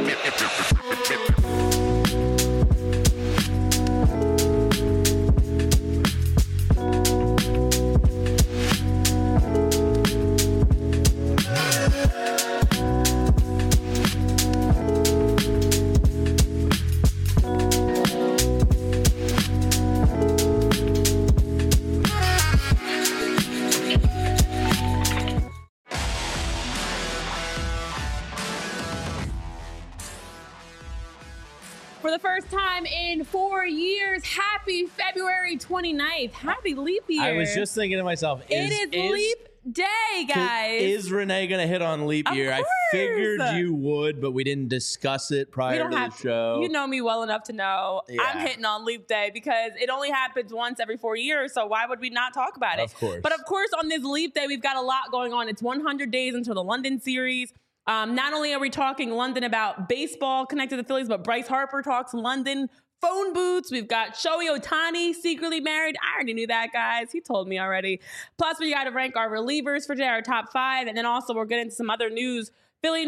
For the first time in 4 years, happy February 29th. Happy leap year. I was just thinking to myself, it is leap day, guys. Is Renee going to hit on leap year? Of I course. figured you would, but we didn't discuss it prior to the show. You know me well enough to know I'm hitting on leap day because it only happens once every 4 years. So why would we not talk about it? Of course. But of course, on this leap day, we've got a lot going on. It's 100 days until the London series. Not only are we talking London about baseball connected to the Phillies, but Bryce Harper talks London phone booths. We've got Shohei Ohtani secretly married. I already knew that, guys. He told me already. Plus, we got to rank our relievers for today, our top 5. And then also we're getting some other news, Phillies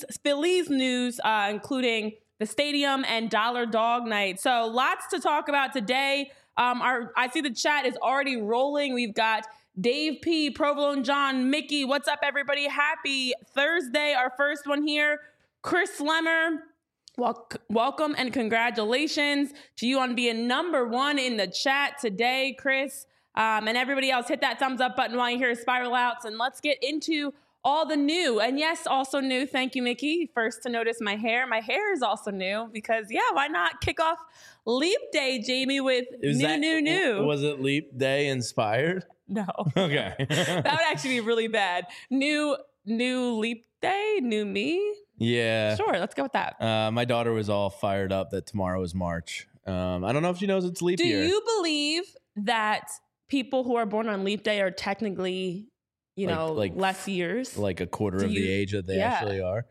news, including the stadium and Dollar Dog Night. So lots to talk about today. I see the chat is already rolling. We've got Dave P, Provolone John, Mickey. What's up, everybody? Happy Thursday. Our first one here, Chris Slemmer. Welcome and congratulations to you on being number 1 in the chat today, Chris. And everybody else, hit that thumbs up button while you hear Spiral Outs. And let's get into all the new. And yes, also new. Thank you, Mickey. First to notice my hair. My hair is also new because, why not kick off Leap Day, Jamie, with new. Was it Leap Day inspired? No. Okay. That would actually be really bad. New leap day, new me. Yeah. Sure, let's go with that. My daughter was all fired up that tomorrow is March. I don't know if she knows it's leap year. Do you believe that people who are born on leap day are technically, like less years? Like a quarter of the age that they actually are?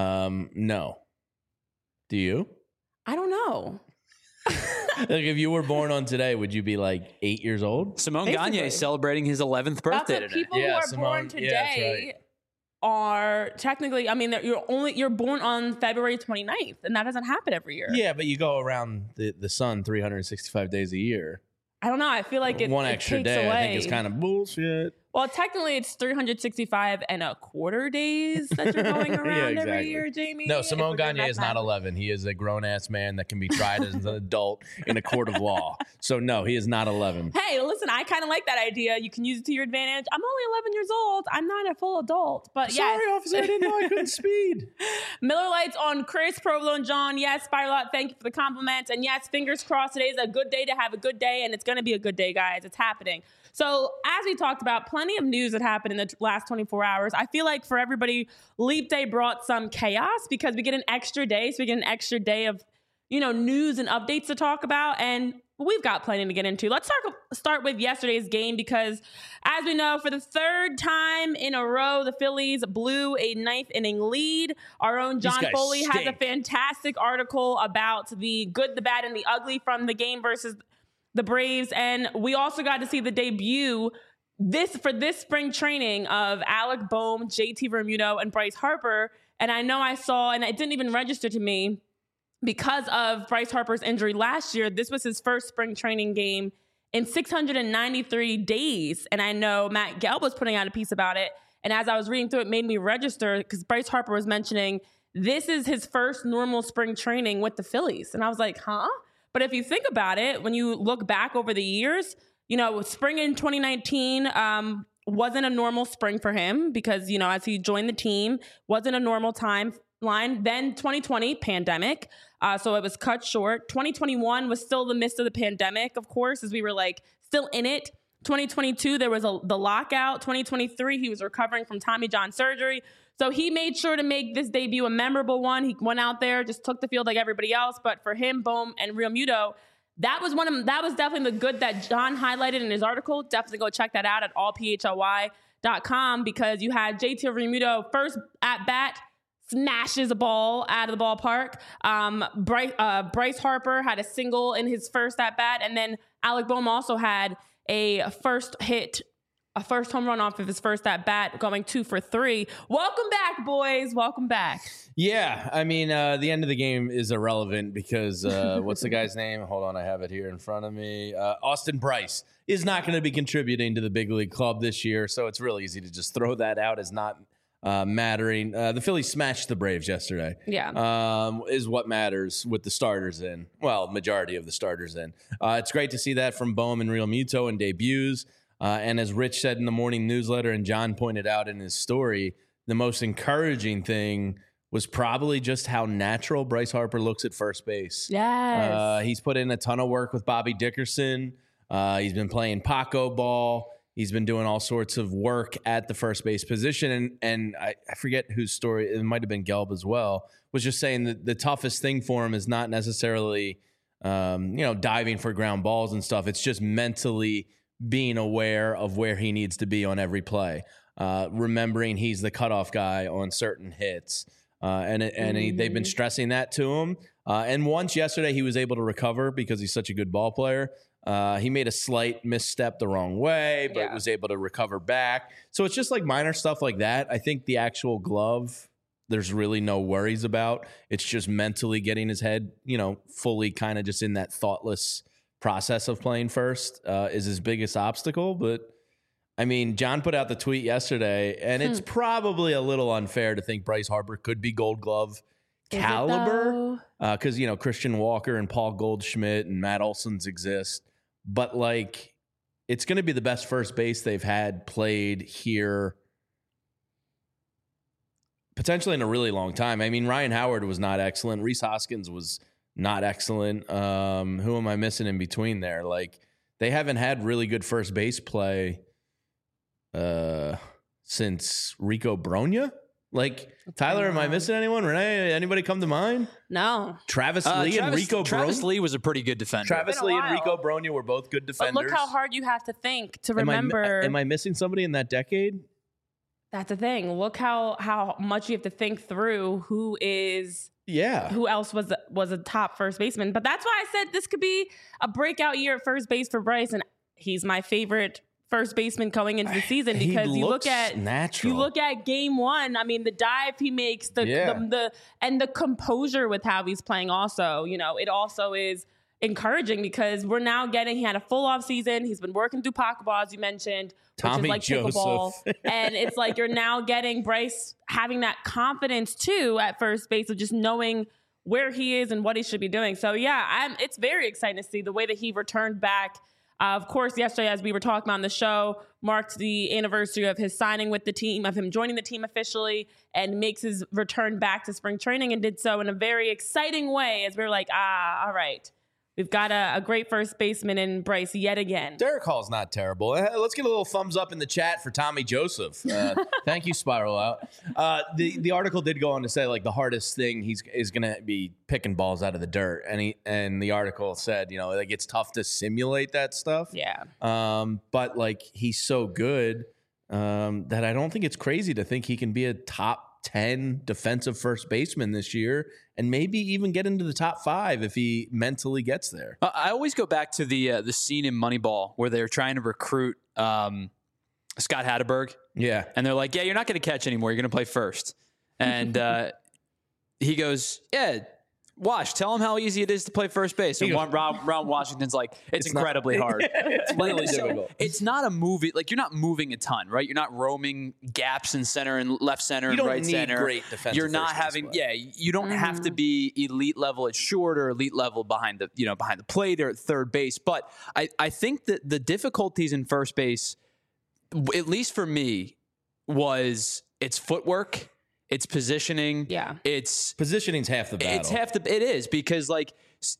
No. Do you? I don't know. Like if you were born on today, would you be like 8 years old? Simone Gagne is celebrating his 11th birthday today. People who are born today are technically, you're born on February 29th, and that doesn't happen every year. Yeah, but you go around the sun 365 days a year. I don't know. I feel like one extra day away. I think is kind of bullshit. Well, technically, it's 365 and a quarter days that you're going around every year, Jamie. No, Simone Gagne is not 11. He is a grown-ass man that can be tried as an adult in a court of law. So, no, he is not 11. Hey, listen, I kind of like that idea. You can use it to your advantage. I'm only 11 years old. I'm not a full adult. But Sorry, officer, I didn't know I couldn't speed. Miller Lights on Chris, Provolone John. Yes, Spiral Out, thank you for the compliments. And yes, fingers crossed, today is a good day to have a good day. And it's going to be a good day, guys. It's happening. So as we talked about, plenty of news that happened in the last 24 hours. I feel like for everybody, Leap Day brought some chaos because we get an extra day. So we get an extra day of, news and updates to talk about. And we've got plenty to get into. Let's start with yesterday's game because, as we know, for the third time in a row, the Phillies blew a 9th inning lead. Our own John Foley has a fantastic article about the good, the bad, and the ugly from the game versus the Braves. And we also got to see the debut for this spring training of Alec Bohm, JT Realmuto, and Bryce Harper. And I know I saw, and it didn't even register to me because of Bryce Harper's injury last year. This was his first spring training game in 693 days. And I know Matt Gelb was putting out a piece about it. And as I was reading through it, made me register because Bryce Harper was mentioning this is his first normal spring training with the Phillies. And I was like, huh? But if you think about it, when you look back over the years, spring in 2019 wasn't a normal spring for him because, as he joined the team, wasn't a normal timeline. Then 2020, pandemic. So it was cut short. 2021 was still the midst of the pandemic, of course, as we were still in it. 2022, there was the lockout. 2023, he was recovering from Tommy John surgery. So he made sure to make this debut a memorable one. He went out there, just took the field like everybody else. But for him, Bohm and Realmuto, that was definitely the good that John highlighted in his article. Definitely go check that out at allphly.com because you had JT Realmuto first at bat, smashes a ball out of the ballpark. Bryce Harper had a single in his first at bat, and then Alec Bohm also had a first hit a first home run off of his first at bat, going 2 for 3. Welcome back, boys. Welcome back. Yeah, I mean, the end of the game is irrelevant because what's the guy's name? Hold on, I have it here in front of me. Austin Brice is not going to be contributing to the big league club this year, so it's real easy to just throw that out as not mattering. The Phillies smashed the Braves yesterday. Yeah. Is what matters with the starters in. Well, majority of the starters in. It's great to see that from Bohm and Real Muto in debuts. And as Rich said in the morning newsletter and John pointed out in his story, the most encouraging thing was probably just how natural Bryce Harper looks at first base. Yes. He's put in a ton of work with Bobby Dickerson. He's been playing Paco ball. He's been doing all sorts of work at the first base position. And I forget whose story, it might have been Gelb as well, was just saying that the toughest thing for him is not necessarily, diving for ground balls and stuff. It's just mentally being aware of where he needs to be on every play, remembering he's the cutoff guy on certain hits. They've been stressing that to him. And once yesterday he was able to recover because he's such a good ball player. He made a slight misstep the wrong way, but was able to recover back. So it's just like minor stuff like that. I think the actual glove, there's really no worries about. It's just mentally getting his head, fully kind of just in that thoughtless process of playing first is his biggest obstacle. But I mean, John put out the tweet yesterday, and it's probably a little unfair to think Bryce Harper could be Gold Glove caliber because Christian Walker and Paul Goldschmidt and Matt Olson's exist, but like it's going to be the best first base they've had played here potentially in a really long time. I mean, Ryan Howard was not excellent. Rhys Hoskins was not excellent. Who am I missing in between there? Like, they haven't had really good first base play since Rico Brogna. Like, Tyler, am I missing anyone? Renee, anybody come to mind? No. Travis Lee and Rico Brogna? Travis Lee was a pretty good defender. Travis Lee and Rico Brogna were both good defenders. But look how hard you have to think to remember. Am I missing somebody in that decade? That's the thing. Look how much you have to think through who else was a top first baseman. But that's why I said this could be a breakout year at first base for Bryce, and he's my favorite first baseman going into the season because you look at game 1. I mean, the dive he makes, the composure with how he's playing. Also, it also is encouraging because we're now he had a full off season. He's been working through pickleball, as you mentioned, Tommy which is like pickleball. And it's like you're now getting Bryce having that confidence too at first base of just knowing where he is and what he should be doing. So yeah, it's very exciting to see the way that he returned back. Of course, yesterday, as we were talking on the show, marked the anniversary of his signing with the team, of him joining the team officially, and makes his return back to spring training, and did so in a very exciting way as we were like, all right. We've got a great first baseman in Bryce yet again. Derek Hall's not terrible. Let's get a little thumbs up in the chat for Tommy Joseph. Thank you, Spiral Out. The article did go on to say, like, the hardest thing is going to be picking balls out of the dirt. And the article said, like, it's tough to simulate that stuff. Yeah. But, like, he's so good that I don't think it's crazy to think he can be a top 10 defensive first baseman this year and maybe even get into the top 5 if he mentally gets there. I always go back to the scene in Moneyball where they're trying to recruit Scott Hatteberg. Yeah. And they're like, you're not going to catch anymore. You're going to play first. And he goes, Wash, tell him how easy it is to play first base. And Ron Washington's like, it's incredibly hard. It's really difficult. It's not a movie. Like, you're not moving a ton, right? You're not roaming gaps in center and left center and right center. You don't need great defensive. You're not having, you don't have to be elite level at short or elite level behind the plate or at third base. But I think that the difficulties in first base, at least for me, was its footwork. It's positioning. Yeah. It's positioning's half the battle. It is because, like,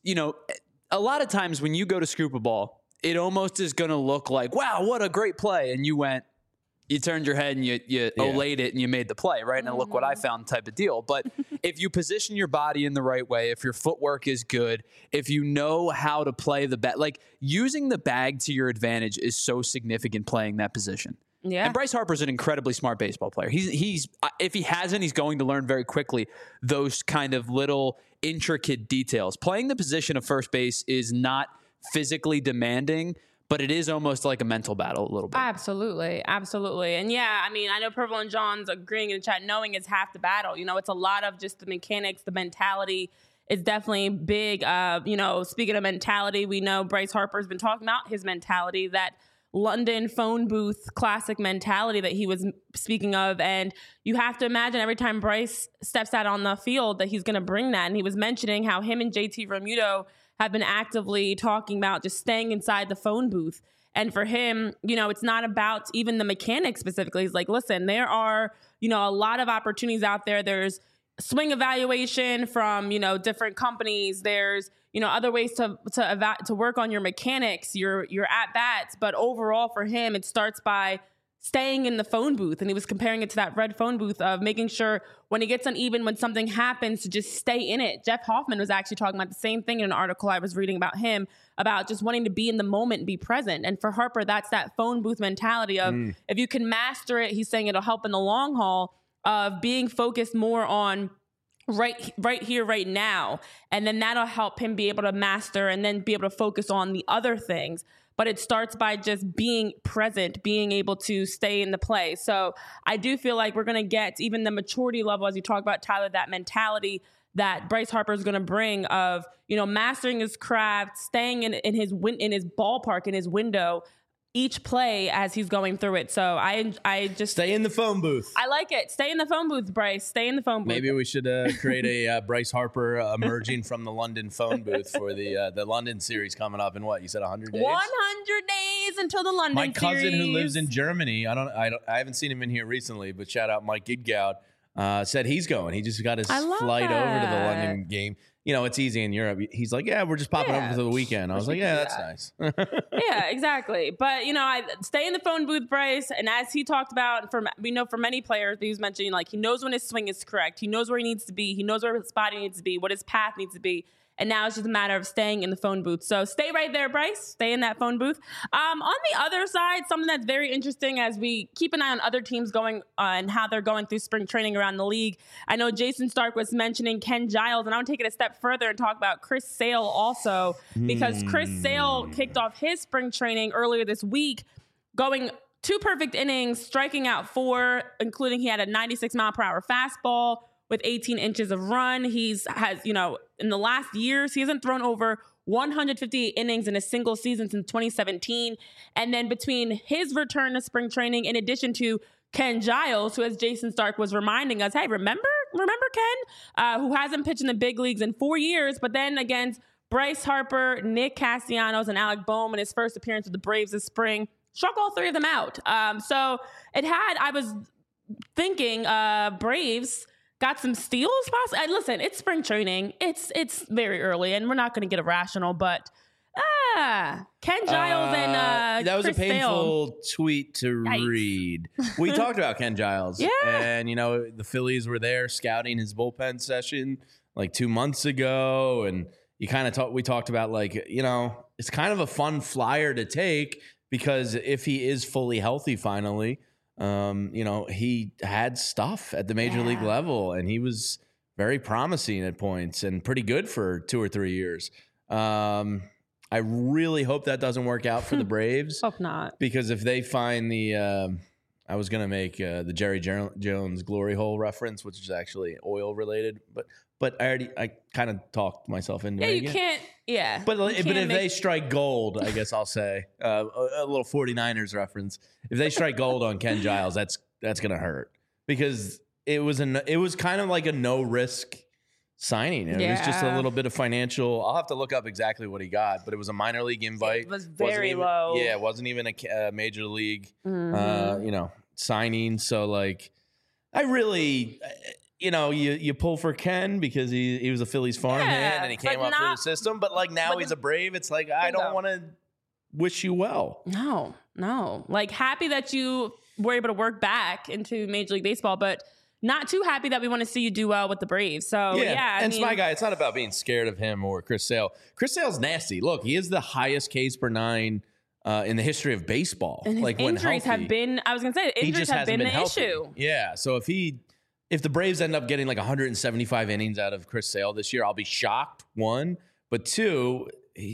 a lot of times when you go to scoop a ball, it almost is going to look like, wow, what a great play. And you turned your head and you olayed it and you made the play, right? And look what I found type of deal. But if you position your body in the right way, if your footwork is good, if you know how to play the bat, like, using the bag to your advantage is so significant playing that position. Yeah. And Bryce Harper's an incredibly smart baseball player. He's if he hasn't, he's going to learn very quickly those kind of little intricate details. Playing the position of first base is not physically demanding, but it is almost like a mental battle a little bit. Absolutely. And yeah, I mean, I know Purple and John's agreeing in the chat, knowing it's half the battle. It's a lot of just the mechanics, the mentality. It's definitely big. Speaking of mentality, we know Bryce Harper's been talking about his mentality, that London phone booth classic mentality that he was speaking of. And you have to imagine every time Bryce steps out on the field that he's going to bring that. And he was mentioning how him and JT Realmuto have been actively talking about just staying inside the phone booth. And for him, it's not about even the mechanics specifically. He's like, listen, there are, a lot of opportunities out there. There's swing evaluation from, different companies. There's, other ways to work on your mechanics, your at bats. But overall for him, it starts by staying in the phone booth. And he was comparing it to that red phone booth of making sure when he gets uneven, when something happens, to just stay in it. Jeff Hoffman was actually talking about the same thing in an article I was reading about him, about just wanting to be in the moment and be present. And for Harper, that's that phone booth mentality of if you can master it, he's saying it'll help in the long haul, of being focused more on right here, right now. And then that'll help him be able to master and then be able to focus on the other things. But it starts by just being present, being able to stay in the play. So I do feel like we're going to get even the maturity level, as you talk about, Tyler, that mentality that Bryce Harper is going to bring of, mastering his craft, staying in his ballpark, in his window, each play as he's going through it. So I just stay in the phone booth. I like it. Stay in the phone booth, Bryce. Stay in the phone booth. Maybe we should create a Bryce Harper emerging from the London phone booth for the London series coming up in what you said 100 days. 100 days until the London series. My cousin who lives in Germany. I haven't seen him in here recently, but shout out Mike Gidgout. Said he's going. He just got his flight over to the London game. It's easy in Europe. He's like, yeah, we're just popping over for the weekend. I was like, yeah, that's nice. Yeah, exactly. But, I stay in the phone booth, Bryce. And as he talked about, we know for many players, he was mentioning, like, he knows when his swing is correct. He knows where he needs to be. He knows where his spot needs to be, what his path needs to be. And now it's just a matter of staying in the phone booth. So stay right there, Bryce. Stay in that phone booth. On the other side, something that's very interesting as we keep an eye on other teams going and how they're going through spring training around the league. I know Jason Stark was mentioning Ken Giles, and I want to take it a step further and talk about Chris Sale also, because Chris Sale kicked off his spring training earlier this week, going 2 perfect innings, striking out 4, including he had a 96-mile-per-hour fastball with 18 inches of run. In the last years, he hasn't thrown over 158 innings in a single season since 2017. And then between his return to spring training, in addition to Ken Giles, who, as Jason Stark was reminding us, hey, remember Ken, who hasn't pitched in the big leagues in 4 years, but then against Bryce Harper, Nick Castellanos, and Alec Bohm in his first appearance with the Braves this spring, struck all 3 of them out. I was thinking Braves got some steals. Listen, it's spring training. It's very early, and we're not going to get irrational. But Ken Giles and that was Chris a painful Sale. tweet to read. We talked about Ken Giles, and the Phillies were there scouting his bullpen session like 2 months ago, and we talked about it's kind of a fun flyer to take because if he is fully healthy finally. He had stuff at the major league level, and he was very promising at points and pretty good for 2 or 3 years. I really hope that doesn't work out for the Braves. Hope not. Because if they find I was going to make the Jerry Jones glory hole reference, which is actually oil related, but I kind of talked myself into it. Yeah, you can't. Yeah. But if they strike gold, I guess I'll say a little 49ers reference. If they strike gold on Ken Giles, that's going to hurt because it was kind of like a no risk signing. It was just a little bit of financial. I'll have to look up exactly what he got, but it was a minor league invite. It was very low. Yeah, it wasn't even a major league, signing. So I really. You pull for Ken because he was a Phillies farmhand and he came up through the system. But now he's a Brave. It's like, I don't want to wish you well. No. Happy that you were able to work back into Major League Baseball, but not too happy that we want to see you do well with the Braves. So, it's my guy. It's not about being scared of him or Chris Sale. Chris Sale's nasty. Look, he is the highest Ks per 9 in the history of baseball. And his injuries have been, injuries have been an issue. Yeah. So if the Braves end up getting 175 innings out of Chris Sale this year, I'll be shocked, 1. But 2,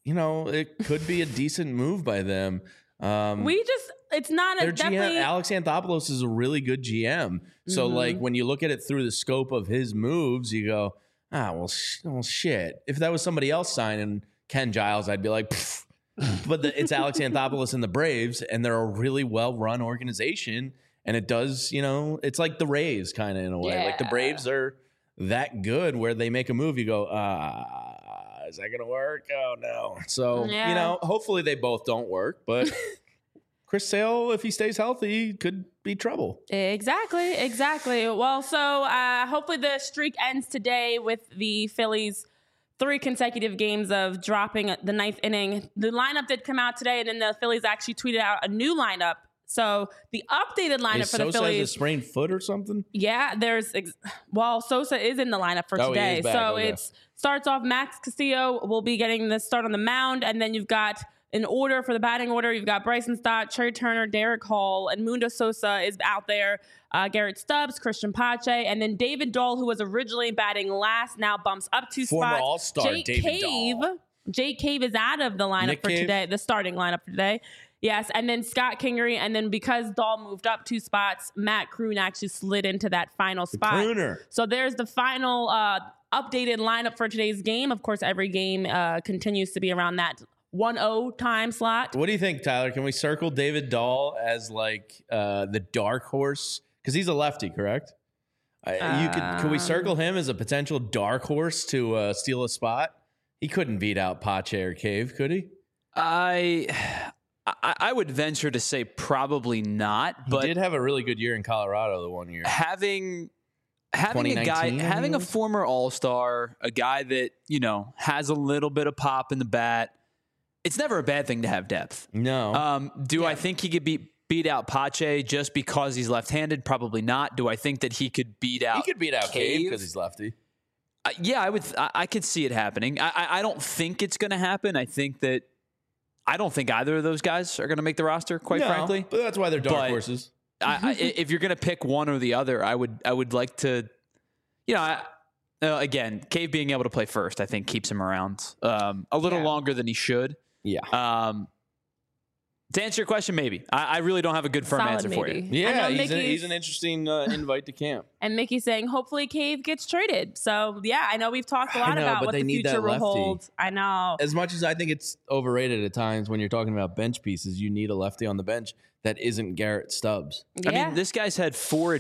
it could be a decent move by them. It's not their a definitely. GM, Alex Anthopoulos is a really good GM. So like when you look at it through the scope of his moves, you go, well, shit. If that was somebody else signing Ken Giles, I'd be like, pfft. But it's Alex Anthopoulos and the Braves, and they're a really well-run organization. And it does, it's like the Rays kind of in a way. Yeah. Like the Braves are that good where they make a move, you go, is that going to work? Oh, no. So, hopefully they both don't work. But Chris Sale, if he stays healthy, could be trouble. Exactly. Well, so hopefully the streak ends today with the Phillies 3 consecutive games of dropping the 9th inning. The lineup did come out today, and then the Phillies actually tweeted out a new lineup. So the updated lineup for the Sosa Phillies. has a sprained foot or something? Yeah, Sosa is in the lineup for today. He is back. So Okay. it starts off Max Castillo will be getting the start on the mound, and then you've got in order for the batting order, you've got Bryson Stott, Trey Turner, Derek Hall, and Mundo Sosa is out there. Garrett Stubbs, Christian Pache, and then David Dahl, who was originally batting last, now bumps up 2 Former spots. All-Star David Dahl. Jake Cave is out of the lineup Nick for Cave? today, the starting lineup for today. Yes, and then Scott Kingery, and then because Dahl moved up 2 spots, Matt Kroon actually slid into that final spot. Crooner. So there's the final updated lineup for today's game. Of course, every game continues to be around that 1-0 time slot. What do you think, Tyler? Can we circle David Dahl as like the dark horse? Because he's a lefty, correct? Could we circle him as a potential dark horse to steal a spot? He couldn't beat out Pache or Cave, could he? I would venture to say probably not. But he did have a really good year in Colorado the one year. Having a guy, having a former All-Star, a guy that has a little bit of pop in the bat, it's never a bad thing to have depth. No. I think he could beat out Pache just because he's left-handed? Probably not. Do I think that he could beat out? He could beat out Cave because he's lefty. Yeah, I could see it happening. I don't think it's going to happen. I don't think either of those guys are going to make the roster. Quite frankly, but that's why they're dark horses. If you're going to pick one or the other, I would like to. Again, Cave being able to play first, I think keeps him around a little longer than he should. Yeah. To answer your question, maybe. I really don't have a good firm Solid answer for you. maybe. Yeah, he's an interesting invite to camp. And Mickey's saying, hopefully Cave gets traded. So, yeah, I know we've talked a lot about what the future will hold. I know. As much as I think it's overrated at times when you're talking about bench pieces, you need a lefty on the bench that isn't Garrett Stubbs. Yeah. I mean, this guy's had 4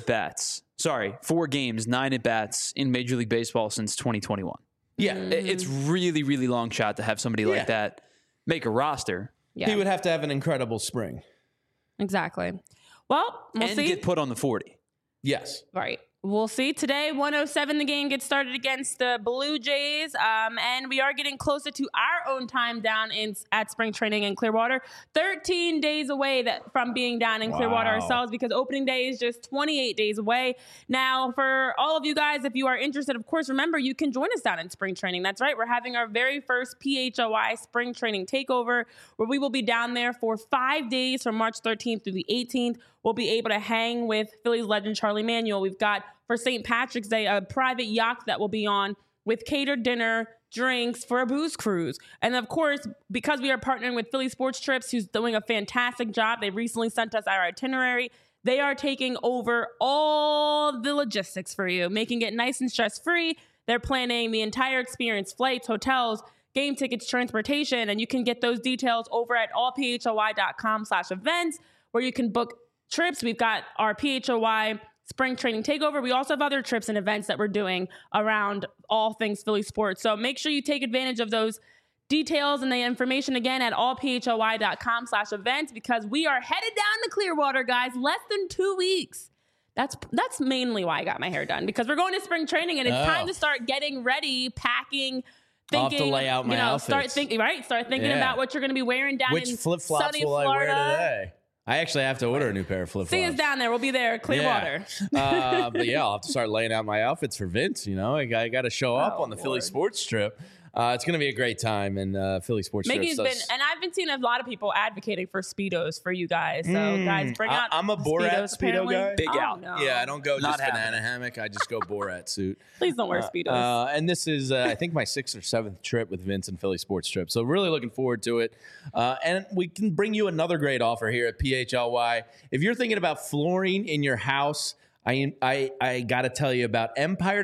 games, 9 at-bats in Major League Baseball since 2021. Yeah. It's really, really long shot to have somebody like that make a roster. Yeah. He would have to have an incredible spring. Exactly. Well, we'll see. And get put on the 40. Yes. Right. We'll see. Today, 1:07, the game gets started against the Blue Jays. And we are getting closer to our own time down at spring training in Clearwater. 13 days away from being down in Clearwater ourselves, because opening day is just 28 days away. Now, for all of you guys, if you are interested, of course, remember, you can join us down in spring training. That's right. We're having our very first PHOI spring training takeover, where we will be down there for 5 days from March 13th through the 18th. We'll be able to hang with Phillies legend Charlie Manuel. We've got, for St. Patrick's Day, a private yacht that will be on with catered dinner, drinks for a booze cruise. And of course, because we are partnering with Philly Sports Trips, who's doing a fantastic job, they recently sent us our itinerary. They are taking over all the logistics for you, making it nice and stress-free. They're planning the entire experience, flights, hotels, game tickets, transportation, and you can get those details over at allphoi.com/events, where you can book trips. We've got our PHOI spring training takeover. We also have other trips and events that we're doing around all things Philly sports. So make sure you take advantage of those details and the information again at allphoi.com/events, because we are headed down to Clearwater, guys, less than 2 weeks. That's mainly why I got my hair done, because we're going to spring training and it's time to start getting ready, packing, thinking. I'll have to lay out my outfits. Start thinking about what you're going to be wearing down in flip-flops sunny will Florida. I wear today? I actually have to order a new pair of flip-flops. See us down there. We'll be there, Clearwater. Yeah. But yeah, I'll have to start laying out my outfits for Vince. I got to show up on the Philly sports trip. It's going to be a great time, and Philly Sports Mickey's Trips been, does. and I've been seeing a lot of people advocating for Speedos for you guys. So guys, bring out. I'm a Borat Speedo apparently. guy. Big out. No. Yeah, I don't go Not just happening. banana hammock. I just go Borat suit. Please don't wear Speedos. And this is, I think, my 6th or 7th trip with Vince and Philly Sports Trip. So really looking forward to it. And we can bring you another great offer here at PHLY. If you're thinking about flooring in your house, I got to tell you about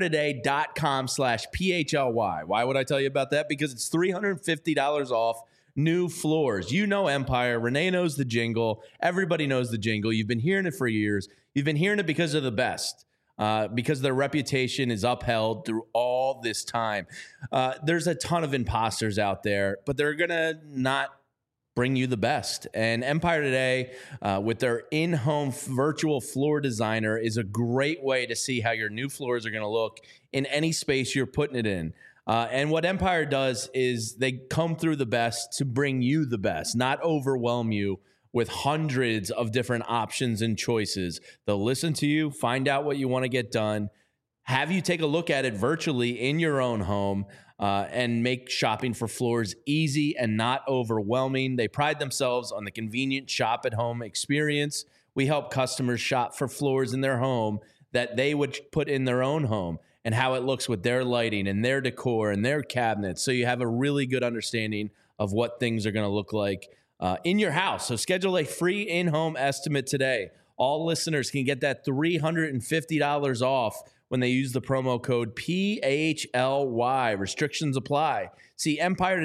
EmpireToday.com/PHLY. Why would I tell you about that? Because it's $350 off new floors. You know Empire. Renee knows the jingle. Everybody knows the jingle. You've been hearing it for years. You've been hearing it because of the best. Because their reputation is upheld through all this time. There's a ton of imposters out there, but they're going to not bring you the best. And Empire Today, with their in-home virtual floor designer, is a great way to see how your new floors are going to look in any space you're putting it in. And what Empire does is they come through the best to bring you the best, not overwhelm you with hundreds of different options and choices. They'll listen to you, find out what you want to get done, have you take a look at it virtually in your own home, and make shopping for floors easy and not overwhelming. They pride themselves on the convenient shop-at-home experience. We help customers shop for floors in their home that they would put in their own home and how it looks with their lighting and their decor and their cabinets, so you have a really good understanding of what things are going to look like in your house. So schedule a free in-home estimate today. All listeners can get that $350 off when they use the promo code PHLY. Restrictions apply. See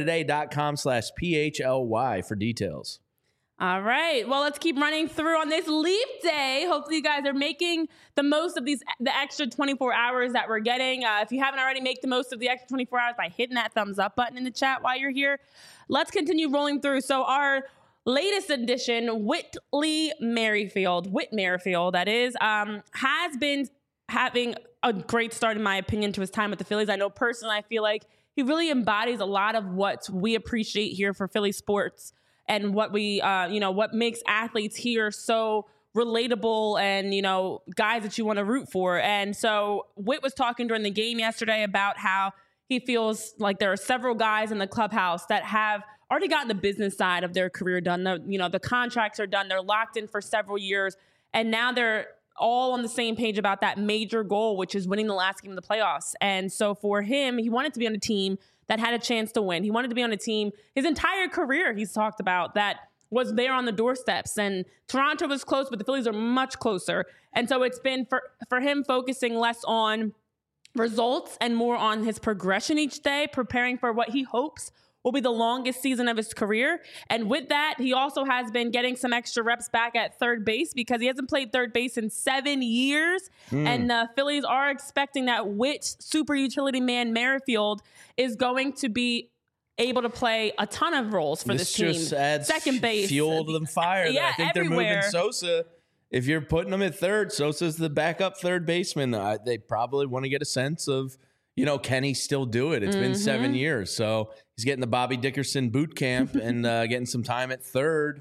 EmpireToday.com/PHLY for details. All right. Well, let's keep running through on this Leap Day. Hopefully, you guys are making the most of the extra 24 hours that we're getting. If you haven't already, make the most of the extra 24 hours by hitting that thumbs up button in the chat while you're here. Let's continue rolling through. So our latest addition, Whit Merrifield, that is, has been having a great start, in my opinion, to his time with the Phillies. I know personally, I feel like he really embodies a lot of what we appreciate here for Philly sports and what we, what makes athletes here so relatable and, guys that you want to root for. And so Whit was talking during the game yesterday about how he feels like there are several guys in the clubhouse that have already gotten the business side of their career done. The contracts are done. They're locked in for several years. And now they're all on the same page about that major goal, which is winning the last game of the playoffs. And so for him, he wanted to be on a team that had a chance to win. He wanted to be on a team his entire career, he's talked about, that was there on the doorsteps. And Toronto was close, but the Phillies are much closer. And so it's been for him focusing less on results and more on his progression each day, preparing for what he hopes will be the longest season of his career. And with that, he also has been getting some extra reps back at third base because he hasn't played third base in 7 years. And the Phillies are expecting that Whit, super utility man Merrifield, is going to be able to play a ton of roles for this team. Just adds second base, fuel to the fire. Yeah, I think everywhere. They're moving Sosa. If you're putting him at third, Sosa's the backup third baseman. They probably want to get a sense of, can he still do it? It's been 7 years. So he's getting the Bobby Dickerson boot camp and getting some time at third.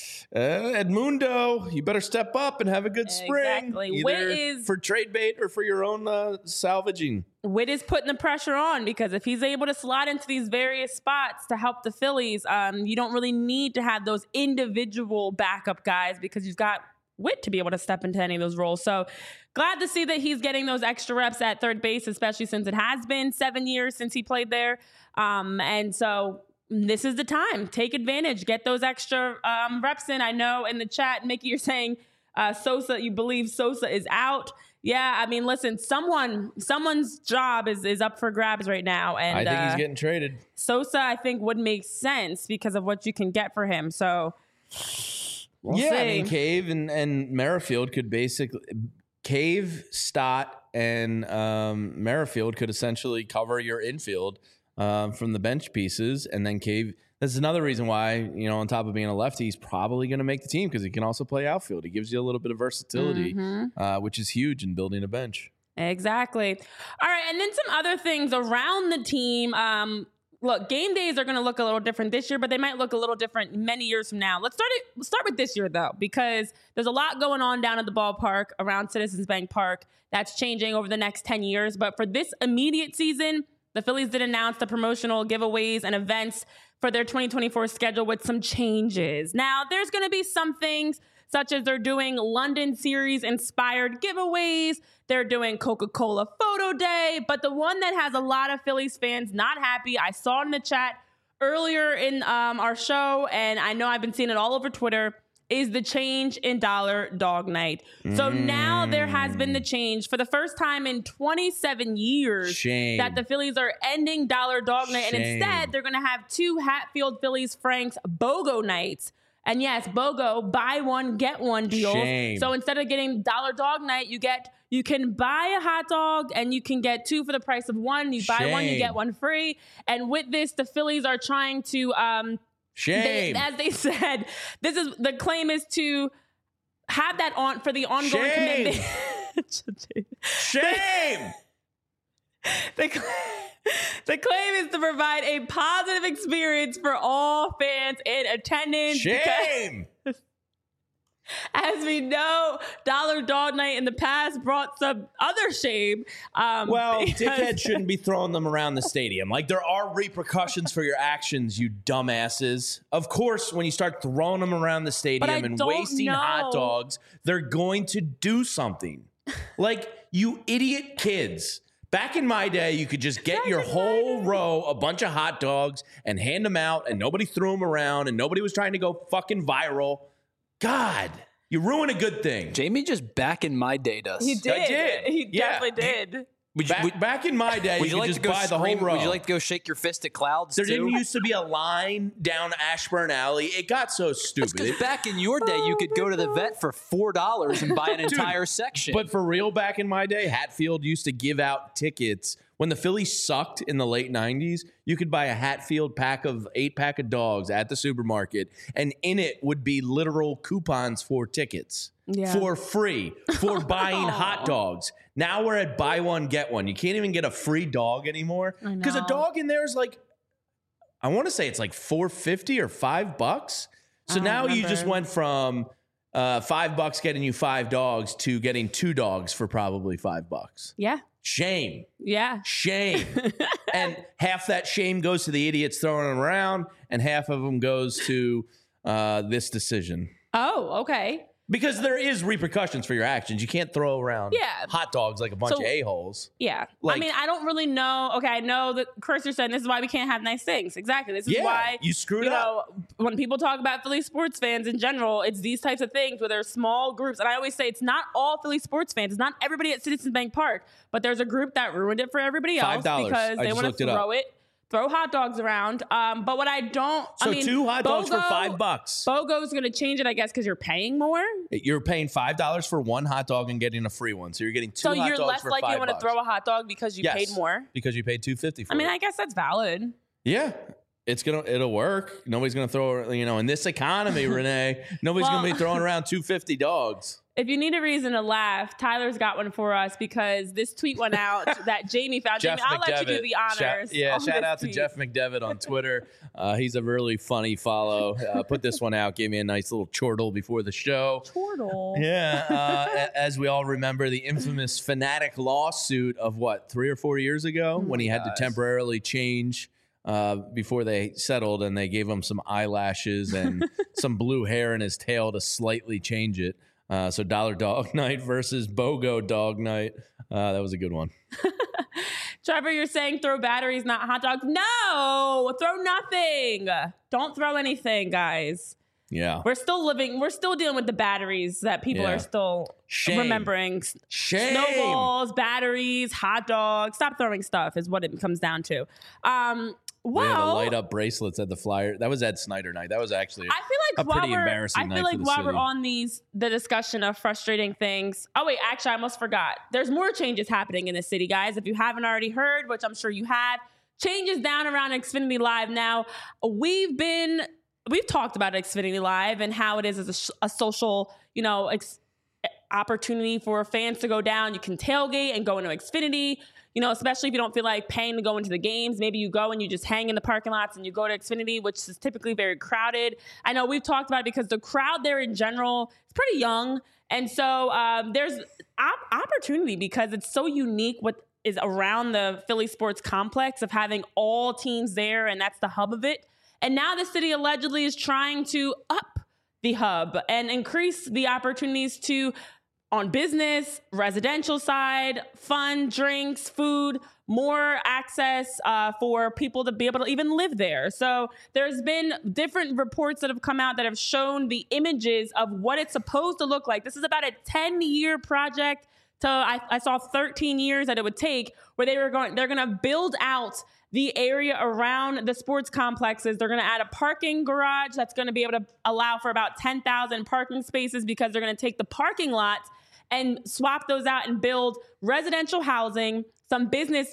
Edmundo, you better step up and have a good spring. Exactly. Either Whit is for trade bait or for your own salvaging. Whit is putting the pressure on because if he's able to slide into these various spots to help the Phillies, you don't really need to have those individual backup guys because you've got Whit to be able to step into any of those roles. So glad to see that he's getting those extra reps at third base, especially since it has been 7 years since he played there. And so this is the time. Take advantage. Get those extra reps in. I know in the chat, Mickey, you're saying Sosa, you believe Sosa is out. Yeah, I mean, listen, someone's job is up for grabs right now. And I think he's getting traded. Sosa, I think, would make sense because of what you can get for him. So we'll see. I mean, Cave and Merrifield could basically Cave, Stott, and Merrifield could essentially cover your infield from the bench pieces, and then Cave. That's another reason why, on top of being a lefty, he's probably going to make the team because he can also play outfield. He gives you a little bit of versatility, which is huge in building a bench. Exactly. All right, and then some other things around the team. Look, game days are going to look a little different this year, but they might look a little different many years from now. Let's start with this year, though, because there's a lot going on down at the ballpark around Citizens Bank Park that's changing over the next 10 years. But for this immediate season, The Phillies did announce the promotional giveaways and events for their 2024 schedule with some changes. Now, there's going to be some things such as they're doing London series inspired giveaways. They're doing Coca-Cola photo day. But the one that has a lot of Phillies fans not happy, I saw it in the chat earlier in our show, and I know I've been seeing it all over Twitter, is the change in Dollar Dog Night. So now there has been the change for the first time in 27 years that the Phillies are ending Dollar Dog Night. And instead, they're going to have 2 Hatfield Phillies Franks BOGO nights. And yes, BOGO, buy one, get one deals. So instead of getting Dollar Dog Night, you can buy a hot dog and you can get 2 for the price of 1. You buy one, you get 1 free. And with this, the Phillies are trying to... as they said, the claim is to have that on for the ongoing commitment. Shame. The claim is to provide a positive experience for all fans in attendance. Shame. As we know, Dollar Dog Night in the past brought some other shame. Dickheads shouldn't be throwing them around the stadium. Like, there are repercussions for your actions, you dumbasses. Of course, when you start throwing them around the stadium and wasting hot dogs, they're going to do something. Like, you idiot kids. Back in my day, you could just get your whole row, a bunch of hot dogs, and hand them out, and nobody threw them around, and nobody was trying to go fucking viral. God, you ruin a good thing. Jamie just back in my day does. He did. I did. He definitely did. Back in my day, you could just buy the whole row. Would you like to go shake your fist at clouds, There didn't used to be a line down Ashburn Alley. It got so stupid. Because back in your day, you could go to the vet for $4 and buy an entire section. But for real, back in my day, Hatfield used to give out tickets. When the Phillies sucked in the late 90s, you could buy a Hatfield 8-pack of dogs at the supermarket, and in it would be literal coupons for tickets for free for buying hot dogs. Now we're at buy one, get one. You can't even get a free dog anymore because a dog in there is like, I want to say it's like $4.50 or $5. So now you just went from $5 getting you 5 dogs to getting 2 dogs for probably $5. Yeah. Shame. Yeah. Shame. And half that shame goes to the idiots throwing them around, and half of them goes to this decision. Oh, okay. Because there is repercussions for your actions. You can't throw around hot dogs like a bunch of a-holes. Yeah. Like, I mean, I don't really know. Okay, I know that Cursor said this is why we can't have nice things. Exactly. This is why you screwed up. When people talk about Philly sports fans in general, it's these types of things where there's small groups. And I always say it's not all Philly sports fans. It's not everybody at Citizens Bank Park. But there's a group that ruined it for everybody else because they want to throw hot dogs around. But what I don't... So 2 hot dogs for $5. BOGO's going to change it, I guess, because you're paying more. You're paying $5 for 1 hot dog and getting a free one. So you're getting 2 hot dogs for $5. So you're less likely to want to throw a hot dog because you paid more? Because you paid $2.50 for it. I mean, I guess that's valid. Yeah. It'll work. Nobody's going to throw, in this economy, Renee, nobody's going to be throwing around $2.50 dogs. If you need a reason to laugh, Tyler's got one for us because this tweet went out that Jamie found. Jamie, I'll let you do the honors. Shout out to Jeff McDevitt on Twitter. He's a really funny follow. Put this one out. Gave me a nice little chortle before the show. Chortle? Yeah. As we all remember, the infamous Fanatic lawsuit of 3 or 4 years ago when he had to temporarily change before they settled, and they gave him some eyelashes and some blue hair in his tail to slightly change it. So Dollar Dog Night versus BOGO Dog Night. That was a good one. Trevor, you're saying throw batteries, not hot dogs. No, throw nothing. Don't throw anything, guys. Yeah. We're still dealing with the batteries that people are still remembering. Shame. Snowballs, batteries, hot dogs. Stop throwing stuff is what it comes down to. We had the light up bracelets at the Flyer. That was Ed Snyder night. That was actually a pretty embarrassing night. I feel like while we're on the discussion of frustrating things. Oh wait, actually I almost forgot. There's more changes happening in the city, guys. If you haven't already heard, which I'm sure you have, changes down around Xfinity Live now. We've talked about Xfinity Live and how it is as a social, opportunity for fans to go down. You can tailgate and go into Xfinity. Especially if you don't feel like paying to go into the games. Maybe you go and you just hang in the parking lots and you go to Xfinity, which is typically very crowded. I know we've talked about it because the crowd there in general is pretty young. And so there's opportunity because it's so unique with is around the Philly sports complex of having all teams there, and that's the hub of it. And now the city allegedly is trying to up the hub and increase the opportunities to, on business, residential side, fun, drinks, food, more access for people to be able to even live there. So there's been different reports that have come out that have shown the images of what it's supposed to look like. This is about a 10-year project. I saw 13 years that it would take, where they're going to build out the area around the sports complexes. They're going to add a parking garage that's going to be able to allow for about 10,000 parking spaces, because they're going to take the parking lots and swap those out and build residential housing, some business,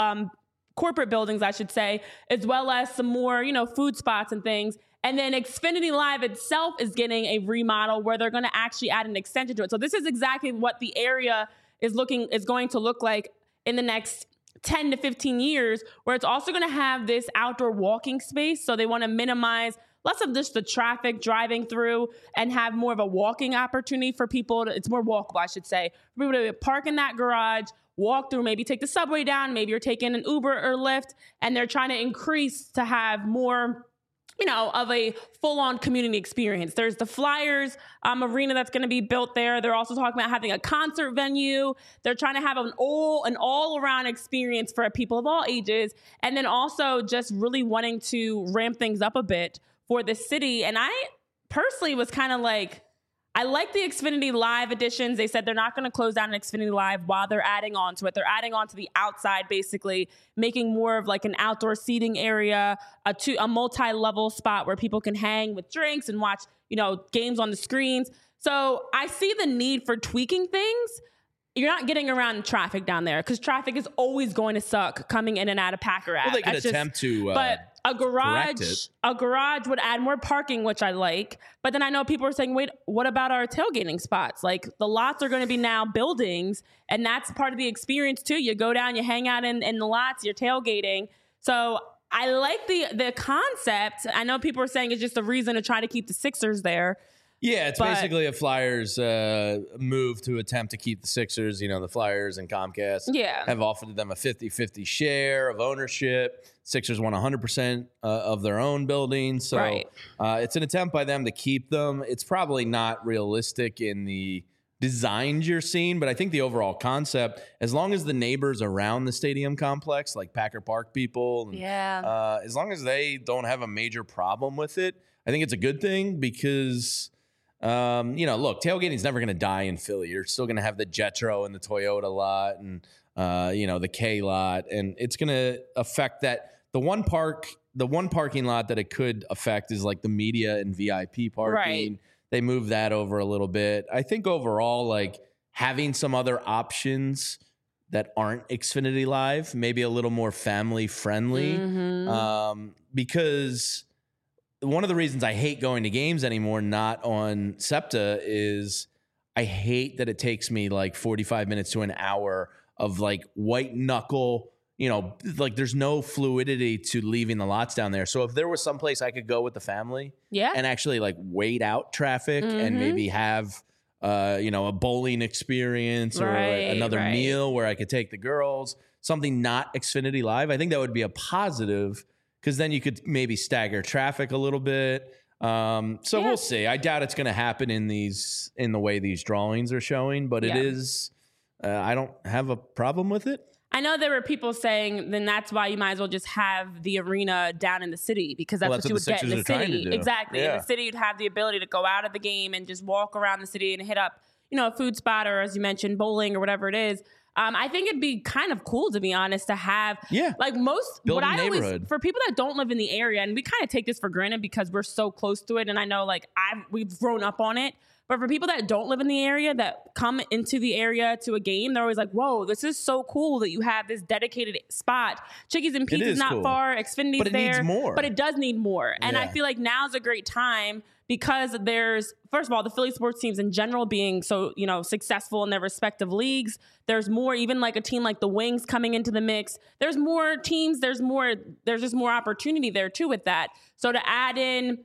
corporate buildings, I should say, as well as some more, food spots and things. And then Xfinity Live itself is getting a remodel where they're going to actually add an extension to it. So this is exactly what the area is going to look like in the next 10 to 15 years, where it's also going to have this outdoor walking space. So they want to minimize less of just the traffic driving through and have more of a walking opportunity for people. It's more walkable, I should say, for people to park in that garage, walk through, maybe take the subway down, maybe you're taking an Uber or Lyft, and they're trying to increase to have more of a full-on community experience. There's the Flyers arena that's going to be built there. They're also talking about having a concert venue. They're trying to have an all-around experience for people of all ages, and then also just really wanting to ramp things up a bit for the city. And I personally was kind of like, I like the Xfinity Live editions. They said they're not going to close down an Xfinity Live while they're adding on to it. They're adding on to the outside, basically making more of like an outdoor seating area, a multi-level spot where people can hang with drinks and watch, games on the screens. So I see the need for tweaking things. You're not getting around traffic down there, because traffic is always going to suck coming in and out of Packer Ave. Well, they could attempt to but a garage would add more parking, which I like. But then I know people are saying, wait, what about our tailgating spots? Like, the lots are going to be now buildings, and that's part of the experience too. You go down, you hang out in the lots, you're tailgating. So I like the concept. I know people are saying it's just a reason to try to keep the Sixers there. Yeah, it's basically a Flyers move to attempt to keep the Sixers. The Flyers and Comcast have offered them a 50-50 share of ownership. Sixers want 100% of their own buildings. So it's an attempt by them to keep them. It's probably not realistic in the designs you're seeing, but I think the overall concept, as long as the neighbors around the stadium complex, like Packer Park people, as long as they don't have a major problem with it, I think it's a good thing, because look, tailgating is never going to die in Philly. You're still going to have the Jetro and the Toyota lot and, the K lot. And it's going to affect that. The one parking lot that it could affect is like the media and VIP parking. Right. They moved that over a little bit. I think overall, like, having some other options that aren't Xfinity Live, maybe a little more family friendly, because one of the reasons I hate going to games anymore, not on SEPTA, is I hate that it takes me like 45 minutes to an hour of like white knuckle, like there's no fluidity to leaving the lots down there. So if there was some place I could go with the family and actually like wait out traffic and maybe have, a bowling experience or another meal where I could take the girls, something not Xfinity Live, I think that would be a positive, because then you could maybe stagger traffic a little bit. We'll see. I doubt it's going to happen in the way these drawings are showing, but it is. I don't have a problem with it. I know there were people saying then that's why you might as well just have the arena down in the city, because that's what you would get in the city. Exactly. Yeah. In the city, you'd have the ability to go out of the game and just walk around the city and hit up, a food spot, or as you mentioned, bowling or whatever it is. I think it'd be kind of cool, to be honest, to have like for people that don't live in the area, and we kind of take this for granted because we're so close to it. And I know we've grown up on it. But for people that don't live in the area, that come into the area to a game, they're always like, whoa, this is so cool that you have this dedicated spot. Chickies and Pete's not far. Xfinity's but it there. Needs more. But it does need more. And I feel like now's a great time, because there's, first of all, the Philly sports teams in general being so, successful in their respective leagues. There's more, even like a team like the Wings coming into the mix. There's more teams. There's just more opportunity there too with that. So to add in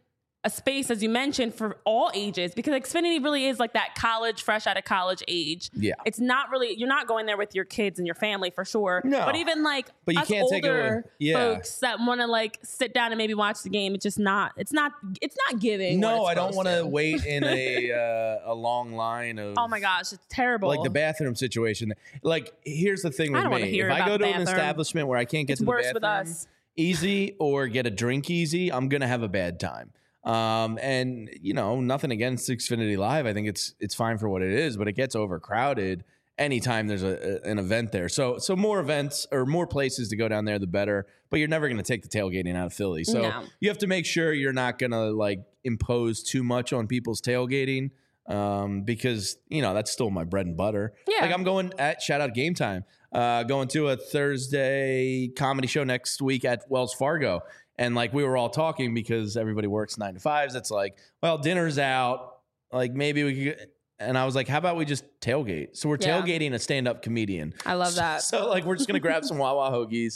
a space, as you mentioned, for all ages, because Xfinity really is like that college, fresh out of college age. Yeah. It's not really, you're not going there with your kids and your family for sure. No. But even like But you us can't take it older away. Yeah. folks that want to like sit down and maybe watch the game, it's not giving. No, what I it's don't want supposed to wait in a long line of. Oh my gosh, it's terrible. Like the bathroom situation. Like, here's the thing with I don't wanna me. hear If I about go the to an bathroom. establishment where I can't get It's to the worse bathroom with us. easy or get a drink easy, I'm going to have a bad time. And nothing against Xfinity Live. I think it's fine for what it is, but it gets overcrowded anytime there's an event there. So more events or more places to go down there, the better. But you're never going to take the tailgating out of Philly. So No. you have to make sure you're not going to like impose too much on people's tailgating. Because that's still my bread and butter. Yeah. Like I'm going at shout out Game Time, going to a Thursday comedy show next week at Wells Fargo. And like we were all talking because everybody works 9 to 5s. It's like, well, dinner's out. Like maybe we could. And I was like, how about we just tailgate? So we're Yeah. tailgating a stand-up comedian. I love that. So like we're just gonna grab some Wawa hoagies,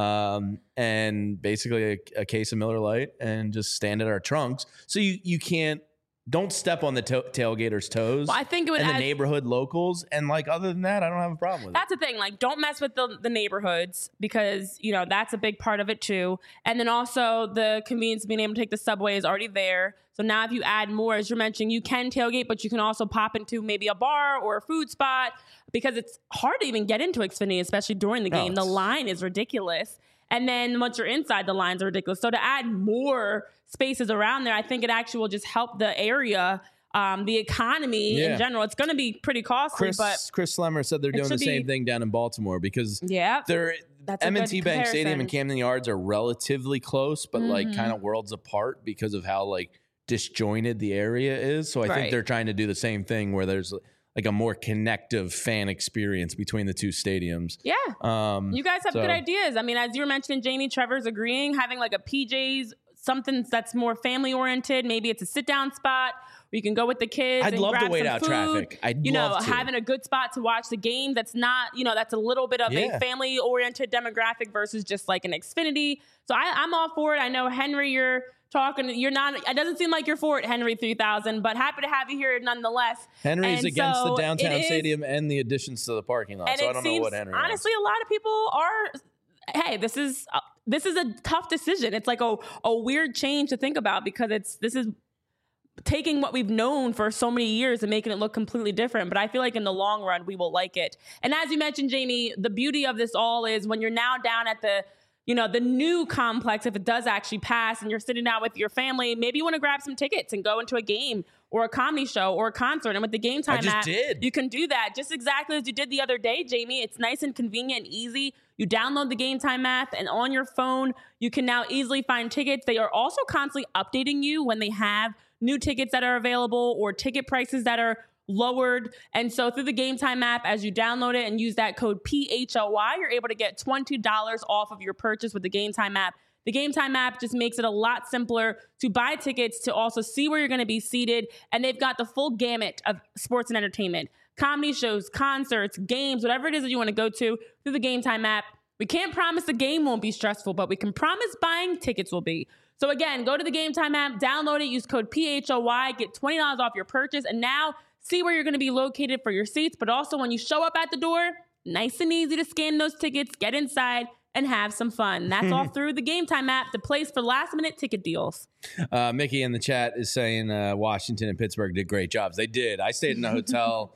and basically a case of Miller Lite, and just stand at our trunks. So you can't. Don't step on the tailgaters' toes. Well, I think it would and the add- neighborhood locals. And like other than that, I don't have a problem with it. That's the thing. Like, don't mess with the neighborhoods, because that's a big part of it too. And then also the convenience of being able to take the subway is already there. So now if you add more, as you're mentioning, you can tailgate, but you can also pop into maybe a bar or a food spot, because it's hard to even get into Xfinity, especially during the game. The line is ridiculous. And then once you're inside, the lines are ridiculous. So to add more spaces around there, I think it actually will just help the area, the economy in general. It's going to be pretty costly, but Chris Slemmer said they're doing the should same be- thing down in Baltimore because yeah, they're That's a M&T good Bank Stadium and comparison. Camden Yards are relatively close, but like kind of worlds apart because of how like disjointed the area is. So I think Right. they're trying to do the same thing where there's like a more connective fan experience between the two stadiums. yeah. You guys have so- good ideas. I mean, as you were mentioning, Jamie, Trevor's agreeing, having like a PJ's, something that's more family oriented. Maybe it's a sit down spot where you can go with the kids. I'd and love to grab wait some out food. traffic. I'd you know, love to. having a good spot to watch the game. That's not, that's a little bit of Yeah. a family oriented demographic versus just like an Xfinity. So I'm all for it. I know, Henry, you're talking. You're not. It doesn't seem like you're for it, Henry 3000. But happy to have you here nonetheless. Henry's And against so the downtown it is- stadium and the additions to the parking lot. And So it I don't seems, know what Henry wants. honestly, a lot of people are. Hey, this is a tough decision. It's like a weird change to think about, because this is taking what we've known for so many years and making it look completely different. But I feel like in the long run, we will like it. And as you mentioned, Jamie, the beauty of this all is when you're now down at the new complex, if it does actually pass and you're sitting down with your family, maybe you want to grab some tickets and go into a game or a comedy show or a concert. And with the Game Time just app, did. you can do that just exactly as you did the other day, Jamie. It's nice and convenient and easy. You download the Game Time app, and on your phone, you can now easily find tickets. They are also constantly updating you when they have new tickets that are available or ticket prices that are lowered. And so through the Game Time app, as you download it and use that code PHLY, you're able to get $20 off of your purchase with the Game Time app. The Game Time app just makes it a lot simpler to buy tickets, to also see where you're going to be seated. And they've got the full gamut of sports and entertainment, comedy shows, concerts, games, whatever it is that you want to go to through the Game Time app. We can't promise the game won't be stressful, but we can promise buying tickets will be. So again, go to the Game Time app, download it, use code PHLY, get $20 off your purchase, and now see where you're going to be located for your seats. But also when you show up at the door, nice and easy to scan those tickets, get inside, and have some fun. That's all through the Game Time app, the place for last-minute ticket deals. Mickey in the chat is saying Washington and Pittsburgh did great jobs. They did. I stayed in a hotel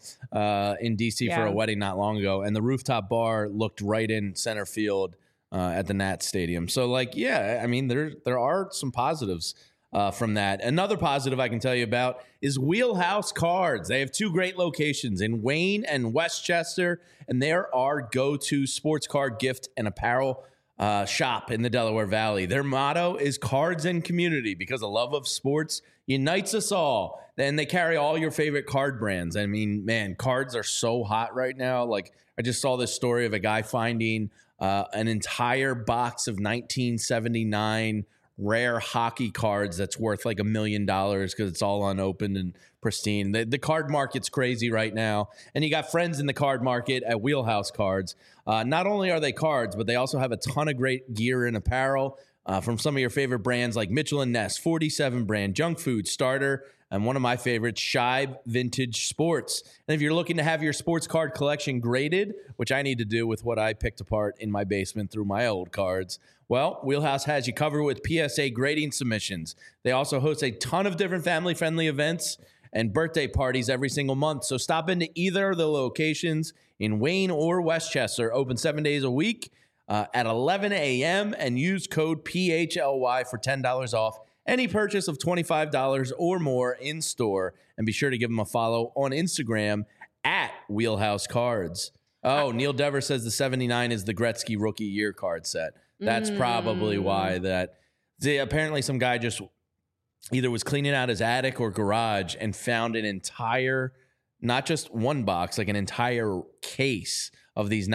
in D.C. for Yeah. a wedding not long ago, and the rooftop bar looked right in center field at the Nats Stadium. So, I mean, there are some positives from that. Another positive I can tell you about is Wheelhouse Cards. They have two great locations in Wayne and Westchester, and they're our go-to sports card gift and apparel shop in the Delaware Valley. Their motto is cards and community, because the love of sports unites us all. And they carry all your favorite card brands. I mean, man, cards are so hot right now. Like, I just saw this story of a guy finding an entire box of 1979 rare hockey cards that's worth like $1 million because it's all unopened and pristine. The card market's crazy right now. And you got friends in the card market at Wheelhouse Cards. Not only are they cards, but they also have a ton of great gear and apparel from some of your favorite brands like Mitchell & Ness, 47 brand, Junk Food, Starter, and one of my favorites, Shibe Vintage Sports. And if you're looking to have your sports card collection graded, which I need to do with what I picked apart in my basement through my old cards, well, Wheelhouse has you covered with PSA grading submissions. They also host a ton of different family-friendly events and birthday parties every single month. So stop into either of the locations in Wayne or Westchester, open 7 days a week at 11 a.m. and use code PHLY for $10 off any purchase of $25 or more in store. And be sure to give them a follow on Instagram at Wheelhouse Cards. Oh, Neil Dever says the 79 is the Gretzky rookie year card set. That's probably why that. Apparently some guy just either was cleaning out his attic or garage and found an entire, not just one box, like an entire case of these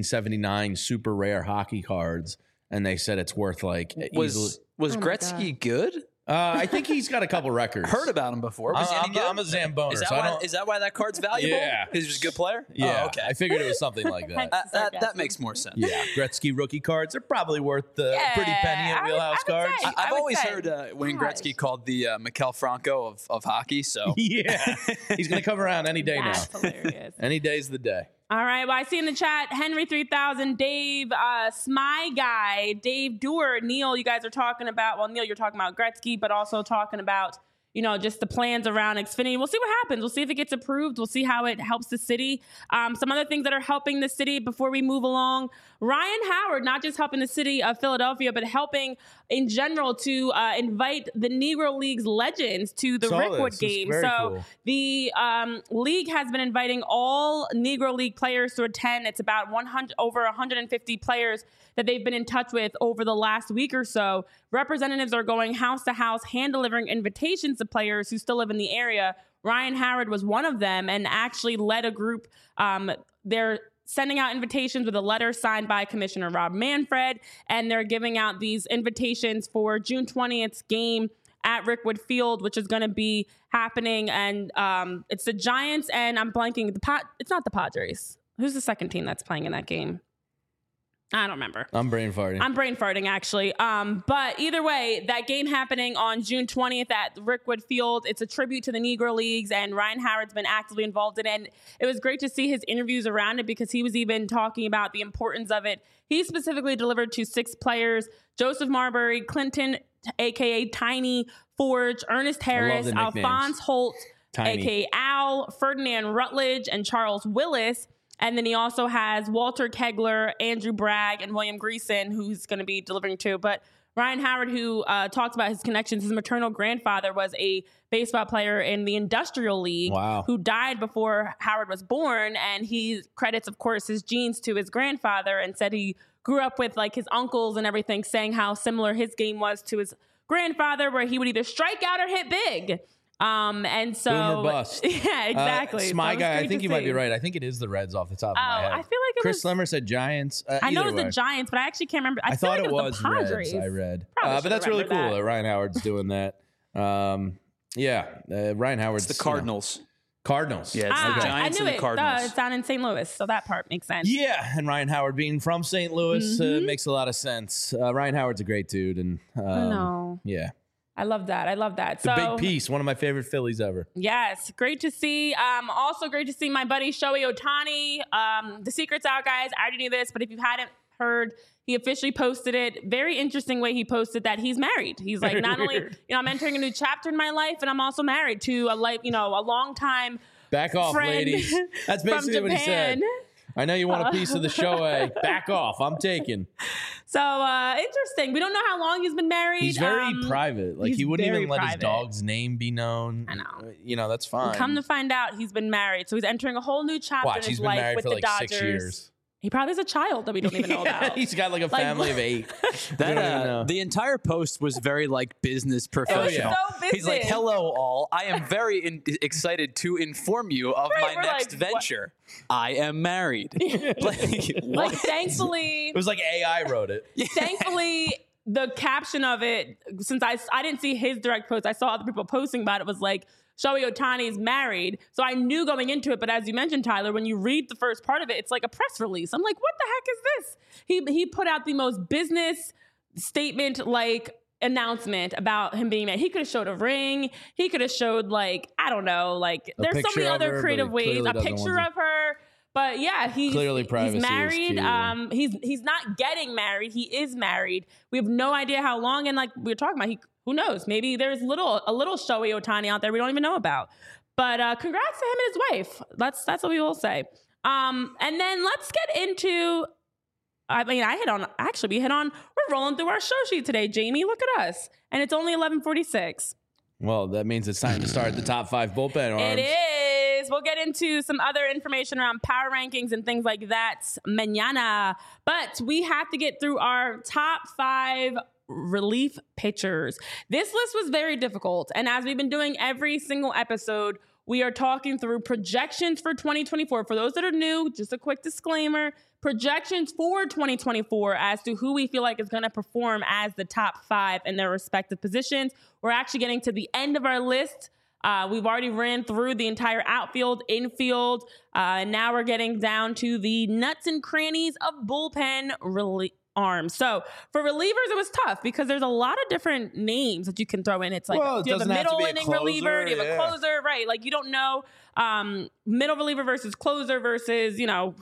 1979 super rare hockey cards. And they said it's worth like Was Gretzky good? I think he's got a couple records. Heard about him before. Was he any good? I'm a Zamboner. Is that why that card's valuable? Yeah. Because he's a good player? Yeah, Oh, okay. I figured it was something like that. That makes more sense. Yeah, Gretzky rookie cards are probably worth the pretty penny at Wheelhouse Cards. I've always heard Wayne Gretzky called the Mikel Franco of hockey. So yeah, he's going to come around any day now. That's hilarious. Any day's the day. All right. Well, I see in the chat, Henry 3000, Dave, Smy Guy, Dave Dewar, Neil, you guys are talking about, well, Neil, you're talking about Gretzky, but also talking about, you know, just the plans around Xfinity. We'll see what happens. We'll see if it gets approved. We'll see how it helps the city. Some other things that are helping the city before we move along. Ryan Howard, not just helping the city of Philadelphia, but helping in general to invite the Negro League's legends to the Rickwood game. So cool. The league has been inviting all Negro League players to attend. It's about over 150 players that they've been in touch with over the last week or so. Representatives are going house to house, hand delivering invitations to players who still live in the area. Ryan Howard was one of them and actually led a group. They're sending out invitations with a letter signed by Commissioner Rob Manfred, and they're giving out these invitations for June 20th's game at Rickwood Field, which is going to be happening. And it's the Giants, and I'm blanking. It's not the Padres. Who's the second team that's playing in that game? I don't remember. I'm brain farting, actually. But either way, that game happening on June 20th at Rickwood Field, it's a tribute to the Negro Leagues, and Ryan Howard's been actively involved in it. And it was great to see his interviews around it because he was even talking about the importance of it. He specifically delivered to 6 players: Joseph Marbury, Clinton, a.k.a. Tiny, Forge, Ernest Harris, Alphonse Holt, a.k.a. Al, Ferdinand Rutledge, and Charles Willis. And then he also has Walter Kegler, Andrew Bragg, and William Greason, who's going to be delivering to. But Ryan Howard, who talks about his connections, his maternal grandfather was a baseball player in the Industrial League who died before Howard was born. And he credits, of course, his genes to his grandfather and said he grew up with like his uncles and everything, saying how similar his game was to his grandfather, where he would either strike out or hit big. And so, boom or bust. Yeah, exactly. Smy Guy, I think you might be right. I think it is the Reds off the top of my head. I feel like it Chris Lemmer said Giants. I know it was the Giants, but I actually can't remember. I thought like it was the Padres. Reds. I read, but that's really cool that Ryan Howard's doing that. Ryan Howard's the Cardinals. Cardinals. Yeah, it's the Giants and the Cardinals. It's down in St. Louis, so that part makes sense. Yeah, and Ryan Howard being from St. Louis makes a lot of sense. Ryan Howard's a great dude, and yeah. I love that. It's a big piece. One of my favorite Phillies ever. Yes. Great to see. Also great to see my buddy Shohei Ohtani. The secret's out, guys. I already knew this, but if you hadn't heard, he officially posted it. Very interesting way he posted that he's married. He's like, not only, I'm entering a new chapter in my life, and I'm also married to a long time Back off, friend ladies. That's basically what he said. I know you want a piece of the Shohei. Back off. I'm taking. So interesting. We don't know how long he's been married. He's very private. Like he wouldn't even let his dog's name be known. I know. That's fine. Come to find out, he's been married. So he's entering a whole new chapter in his life with the Dodgers. 6 years. He probably has a child that we don't even know about. He's got like a family of 8. The entire post was very like business professional. So business. He's like, "Hello, all. I am very excited to inform you of my next venture. I am married." Like, thankfully, it was like AI wrote it. Thankfully, the caption of it, since I didn't see his direct post, I saw other people posting about it, was like, Shohei Ohtani is married. So I knew going into it, but as you mentioned, Tyler, when you read the first part of it, it's like a press release. I'm like, what the heck is this? He put out the most business statement like announcement about him being married. He could have showed a ring. He could have showed like, I don't know, like there's so many other creative ways. A picture of her. But yeah, he's married. He's not getting married. He is married. We have no idea how long. And like we were talking about, who knows? Maybe there's a little Shohei Ohtani out there we don't even know about. But congrats to him and his wife. That's what we will say. And then let's get into. We hit on. We're rolling through our show sheet today, Jamie. Look at us, and it's only 11:46. Well, that means it's time to start the top 5 bullpen arms. It is. We'll get into some other information around power rankings and things like that mañana. But we have to get through our top 5 relief pitchers. This list was very difficult. And as we've been doing every single episode, we are talking through projections for 2024. For those that are new, just a quick disclaimer, projections for 2024 as to who we feel like is going to perform as the top 5 in their respective positions. We're actually getting to the end of our list. We've already ran through the entire outfield, infield, and now we're getting down to the nuts and crannies of bullpen arms. So for relievers, it was tough because there's a lot of different names that you can throw in. It's like, do you have a middle inning reliever? Do you have a closer? Right. Like you don't know middle reliever versus closer versus,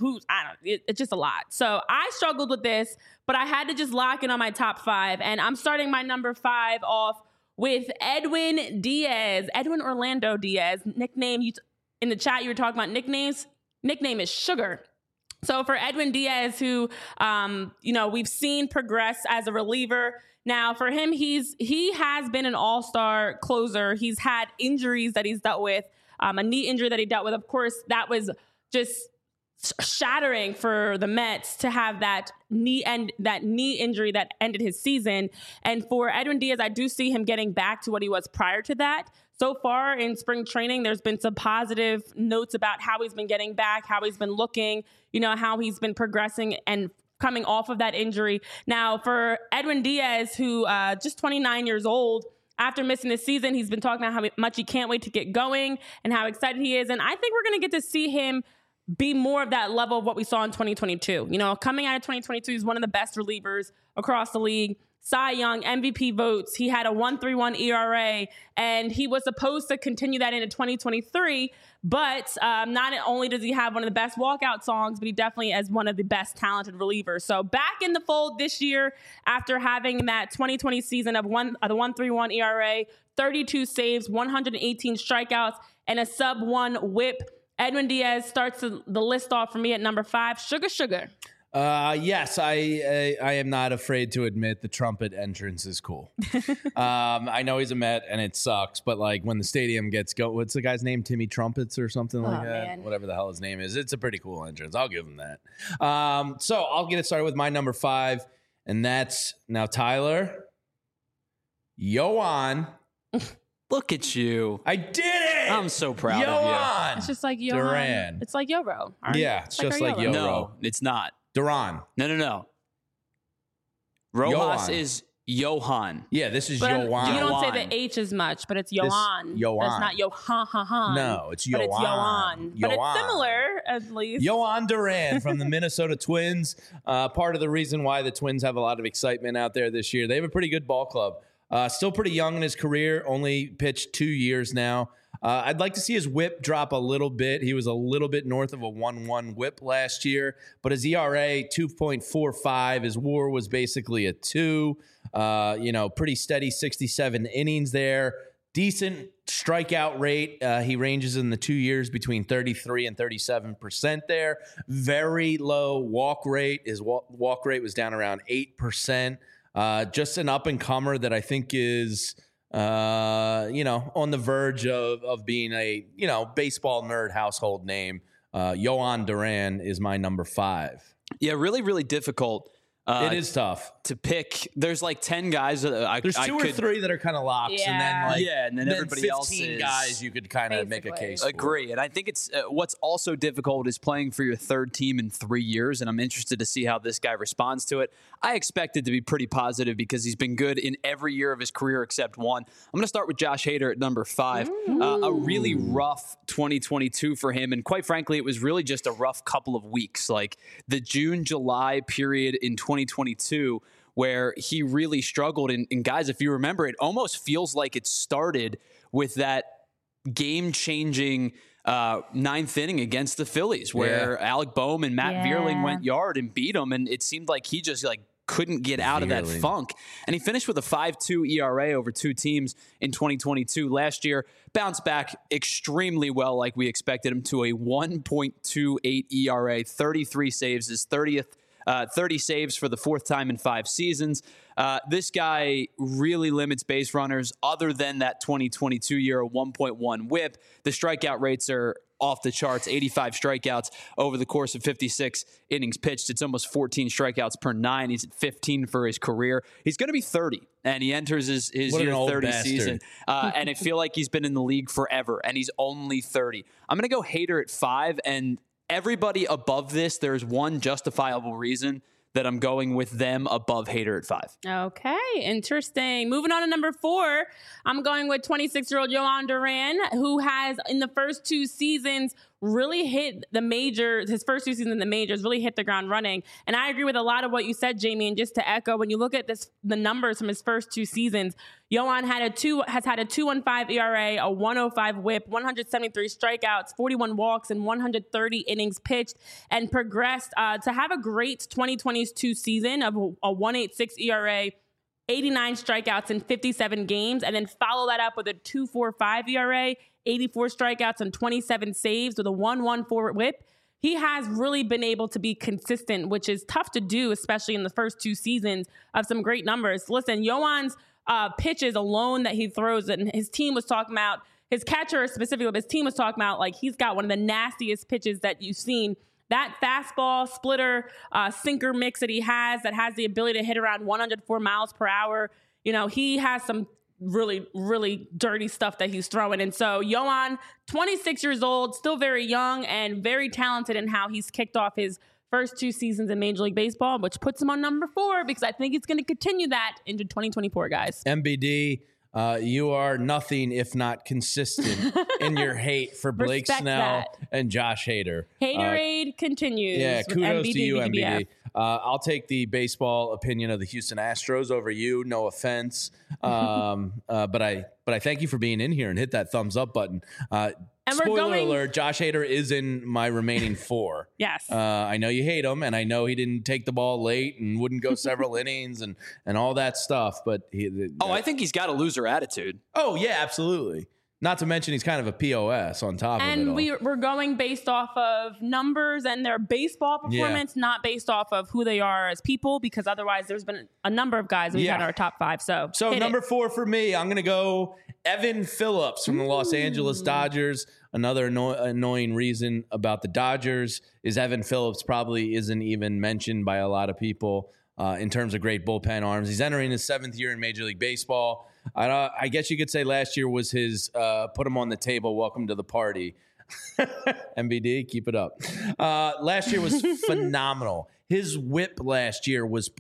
it's just a lot. So I struggled with this, but I had to just lock in on my top 5. And I'm starting my number 5 off with Edwin Orlando Diaz. Nickname, in the chat, you were talking about nicknames. Nickname is Sugar. So for Edwin Diaz, who, we've seen progress as a reliever. Now for him, he has been an all-star closer. He's had injuries that he's dealt with, a knee injury that he dealt with. Of course, that was just shattering for the Mets to have that knee injury that ended his season. And for Edwin Diaz, I do see him getting back to what he was prior to that. So far in spring training, there's been some positive notes about how he's been getting back, how he's been looking, how he's been progressing and coming off of that injury. Now, for Edwin Diaz, who just 29 years old, after missing this season, he's been talking about how much he can't wait to get going and how excited he is. And I think we're going to get to see him be more of that level of what we saw in 2022. Coming out of 2022, he's one of the best relievers across the league. Cy Young, MVP votes. He had a 1.31 ERA, and he was supposed to continue that into 2023. But not only does he have one of the best walkout songs, but he definitely is one of the best talented relievers. So back in the fold this year after having that 2020 season of the 1.31 ERA, 32 saves, 118 strikeouts, and a sub-1 WHIP. Edwin Diaz starts the list off for me at number 5. Sugar. Yes, I am not afraid to admit the trumpet entrance is cool. I know he's a Met and it sucks, but like when the stadium gets what's the guy's name? Timmy Trumpets or something like that? Man. Whatever the hell his name is. It's a pretty cool entrance. I'll give him that. So I'll get it started with my number 5, and that's now Tyler. Yoan. Look at you. I did it. I'm so proud of you. It's just like Yohan. Duran. It's like Yoro. Yeah, it's just like Yoro. No, it's not. Duran. No. Rojas is Johan. Yeah, this is but Yoan. You don't say the H as much, but it's Yohan. Yoan. But it's not Yohan. No, it's Yoan. But it's Yoan. But it's similar, at least. Yoan Duran from the Minnesota Twins. Part of the reason why the Twins have a lot of excitement out there this year. They have a pretty good ball club. Still pretty young in his career, only pitched 2 years now. I'd like to see his whip drop a little bit. He was a little bit north of a 1.1 whip last year, but his ERA, 2.45. His WAR was basically a 2. Pretty steady 67 innings there. Decent strikeout rate. He ranges in the 2 years between 33 and 37% there. Very low walk rate. His walk rate was down around 8%. Just an up-and-comer that I think is, on the verge of being a, baseball nerd household name. Yoan Duran is my number 5. Yeah, really, really difficult It is tough to pick. There's like 10 guys. There's two or three that are kind of locks, and then everybody 15 else is guys you could kind of make a case. Agree, and I think it's what's also difficult is playing for your third team in 3 years, and I'm interested to see how this guy responds to it. I expect it to be pretty positive because he's been good in every year of his career except one. I'm going to start with Josh Hader at number 5. A really rough 2022 for him, and quite frankly, it was really just a rough couple of weeks. Like the June-July period in 2022 where he really struggled. And guys, if you remember, it almost feels like it started with that game-changing ninth inning against the Phillies where Alec Boehm and Matt Vierling went yard and beat him. And it seemed like he just couldn't get out of that funk. And he finished with a 5.2 ERA over 2 teams in 2022. Last year, bounced back extremely well like we expected him to, a 1.28 ERA, 33 saves, his 30 saves for the 4th time in 5 seasons. This guy really limits base runners other than that 2022 year, a 1.1 whip. The strikeout rates are off the charts, 85 strikeouts over the course of 56 innings pitched. It's almost 14 strikeouts per 9. He's at 15 for his career. He's going to be 30, and he enters his year 30 season. And I feel like he's been in the league forever, and he's only 30. I'm going to go Hader at 5, and everybody above this, there's one justifiable reason that I'm going with them above Hader at 5. Okay, interesting. Moving on to number 4, I'm going with 26-year-old Jhoan Duran, who has, in the first 2 seasons, really hit the majors. His first 2 seasons in the majors really hit the ground running. And I agree with a lot of what you said, Jamie. And just to echo, when you look at the numbers from his first 2 seasons, Jhoan has had a 2.15 ERA, a 1.05 whip, 173 strikeouts, 41 walks, and 130 innings pitched, and progressed to have a great 2022 season of a 1.86 ERA, 89 strikeouts in 57 games, and then follow that up with a 2.45 ERA, 84 strikeouts and 27 saves with a 1.14 whip. He has really been able to be consistent, which is tough to do, especially in the first 2 seasons of some great numbers. Listen, Jhoan's pitches alone that he throws, and his team was talking about, his catcher specifically, his team was talking about, like, he's got one of the nastiest pitches that you've seen. That fastball, splitter, sinker mix that he has that has the ability to hit around 104 miles per hour. You know, he has some really, really dirty stuff that he's throwing. And so Jhoan, 26 years old, still very young and very talented in how he's kicked off his first 2 seasons in Major League Baseball, which puts him on number 4 because I think he's going to continue that into 2024, guys. MBD, you are nothing if not consistent in your hate for Blake Snell and Josh Hader. Haterade continues. Yeah, kudos to you, MBD. I'll take the baseball opinion of the Houston Astros over you. No offense, but I thank you for being in here and hit that thumbs up button. And spoiler alert: Josh Hader is in my remaining 4. Yes, I know you hate him, and I know he didn't take the ball late and wouldn't go several innings and all that stuff. But I think he's got a loser attitude. Oh yeah, absolutely. Not to mention he's kind of a POS on top of it all. And we're going based off of numbers and their baseball performance, not based off of who they are as people, because otherwise there's been a number of guys we've had in our top 5. So number 4 for me, I'm going to go Evan Phillips from the Los Angeles Dodgers. Another annoying reason about the Dodgers is Evan Phillips probably isn't even mentioned by a lot of people in terms of great bullpen arms. He's entering his 7th year in Major League Baseball. I guess you could say last year was his put him on the table, welcome to the party. MBD, keep it up. Last year was phenomenal. His whip last year was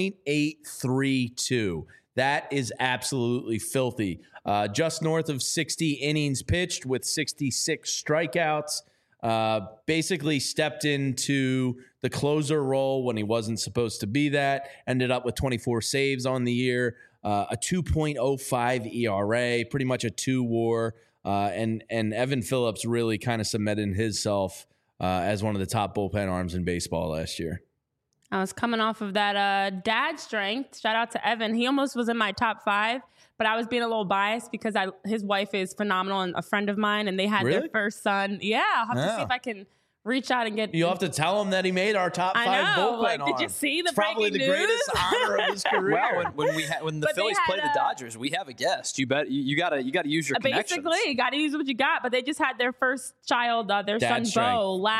.832. That is absolutely filthy. Just north of 60 innings pitched with 66 strikeouts. Basically stepped into the closer role when he wasn't supposed to be that. Ended up with 24 saves on the year. A 2.05 ERA, pretty much a 2 WAR, and Evan Phillips really kind of cemented himself as one of the top bullpen arms in baseball last year. I was coming off of that dad strength. Shout out to Evan. He almost was in my top 5, but I was being a little biased because his wife is phenomenal and a friend of mine, and they had their first son. Yeah, I'll have to see if I can reach out and get. You'll have to tell him that he made our top 5 bullpen arm. Did you see the probably the news? Greatest honor of his career. Well, when the Phillies play the Dodgers, we have a guest. You gotta use your connections. Basically, you gotta use what you got. But they just had their first child, their son Bo,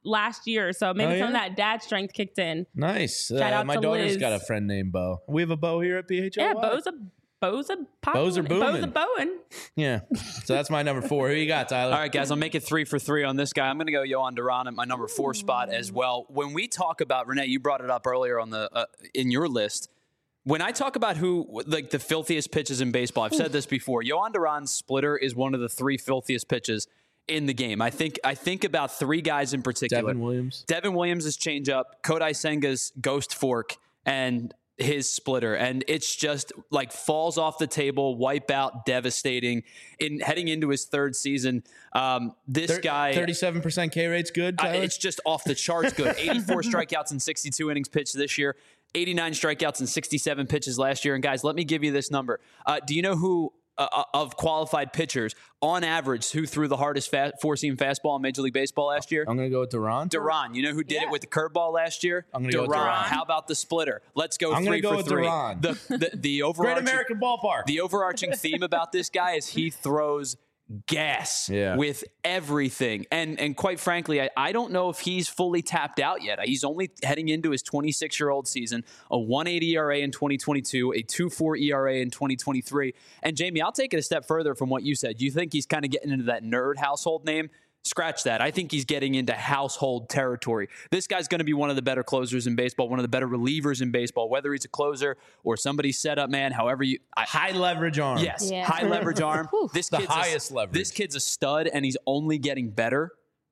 last year. So maybe Oh, some of yeah? that dad strength kicked in. Nice. Shout out My to daughter's Liz. got a friend named Bo. We have a Bo here at PHLY. Yeah, Bo's a Bo's are booming. booming. Yeah. So that's my number 4. Who you got, Tyler? All right, guys, I'll make it 3 for 3 on this guy. I'm going to go Yohan Duran at my number 4 spot as well. When we talk about, Renee, you brought it up earlier on the in your list. When I talk about who, like, the filthiest pitches in baseball, I've said this before. Yohan Duran's splitter is one of the 3 filthiest pitches in the game. I think about 3 guys in particular. Devin Williams. Devin Williams' changeup, Kodai Senga's ghost fork, and his splitter. And it's just like falls off the table, wipe out, devastating. In heading into his 3rd season, this guy 37% K rate's good, Tyler? it's just off the charts good. 84 strikeouts in 62 innings pitched this year, 89 strikeouts in 67 pitches last year. And guys, let me give you this number. Do you know who of qualified pitchers on average who threw the hardest 4-seam fastball in Major League Baseball last year? I'm going to go with Duran. Duran. You know who did it with the curveball last year? I'm gonna go with Duran. How about the splitter? Let's go I'm 3 gonna for go with 3. Duran. The Great overarching American Ballpark. the overarching theme about this guy is he throws gas with everything. And quite frankly, I don't know if he's fully tapped out yet. He's only heading into his 26-year-old season, a 1.80 ERA in 2022, a 2.4 ERA in 2023. And Jamie, I'll take it a step further from what you said. You think he's kind of getting into that nerd household name? Scratch that. I think he's getting into household territory. This guy's going to be one of the better closers in baseball, one of the better relievers in baseball, whether he's a closer or somebody's setup man, however you... High leverage arm. Yes, Yeah. high leverage arm. This The kid's highest leverage. This kid's a stud, and he's only getting better.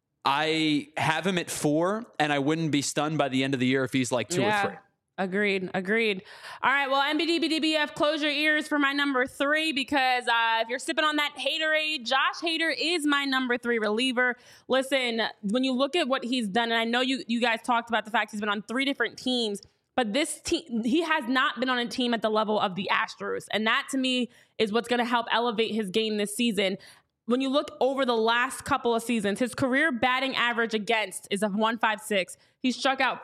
I have him at 4, and I wouldn't be stunned by the end of the year if he's like 2 or 3. Agreed. All right. Well, NBDBDBF, close your ears for my number 3 because if you're sipping on that Haterade, Josh Hader is my number 3 reliever. Listen, when you look at what he's done, and I know you guys talked about the fact he's been on 3 different teams, but this team, he has not been on a team at the level of the Astros. And that to me is what's going to help elevate his game this season. When you look over the last couple of seasons, his career batting average against is a 156. He struck out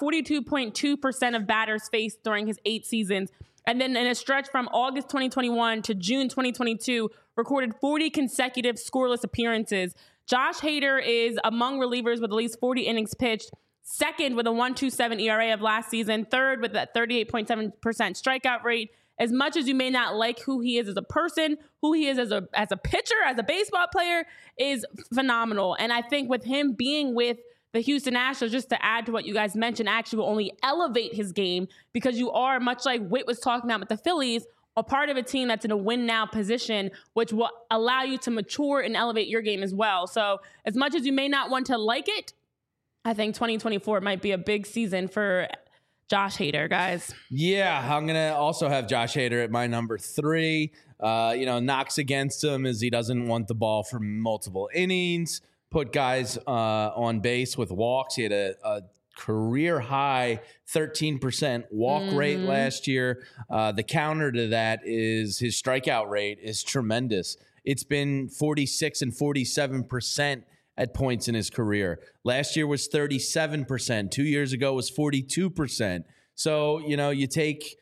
42.2% of batters faced during his 8 seasons. And then in a stretch from August 2021 to June 2022, recorded 40 consecutive scoreless appearances. Josh Hader is among relievers with at least 40 innings pitched, 2nd with a 1.27 ERA of last season, 3rd with a 38.7% strikeout rate. As much as you may not like who he is as a person, who he is as a pitcher, as a baseball player, is phenomenal. And I think with him being with the Houston Astros, just to add to what you guys mentioned, actually will only elevate his game because you are, much like Whit was talking about with the Phillies, a part of a team that's in a win-now position, which will allow you to mature and elevate your game as well. So as much as you may not want to like it, I think 2024 might be a big season for Josh Hader, guys. Yeah, I'm going to also have Josh Hader at my number 3. Knocks against him is he doesn't want the ball for multiple innings, put guys on base with walks. He had a career high 13% walk rate last year. The counter to that is his strikeout rate is tremendous. It's been 46 and 47% at points in his career. Last year was 37%. 2 years ago was 42%. So, you take,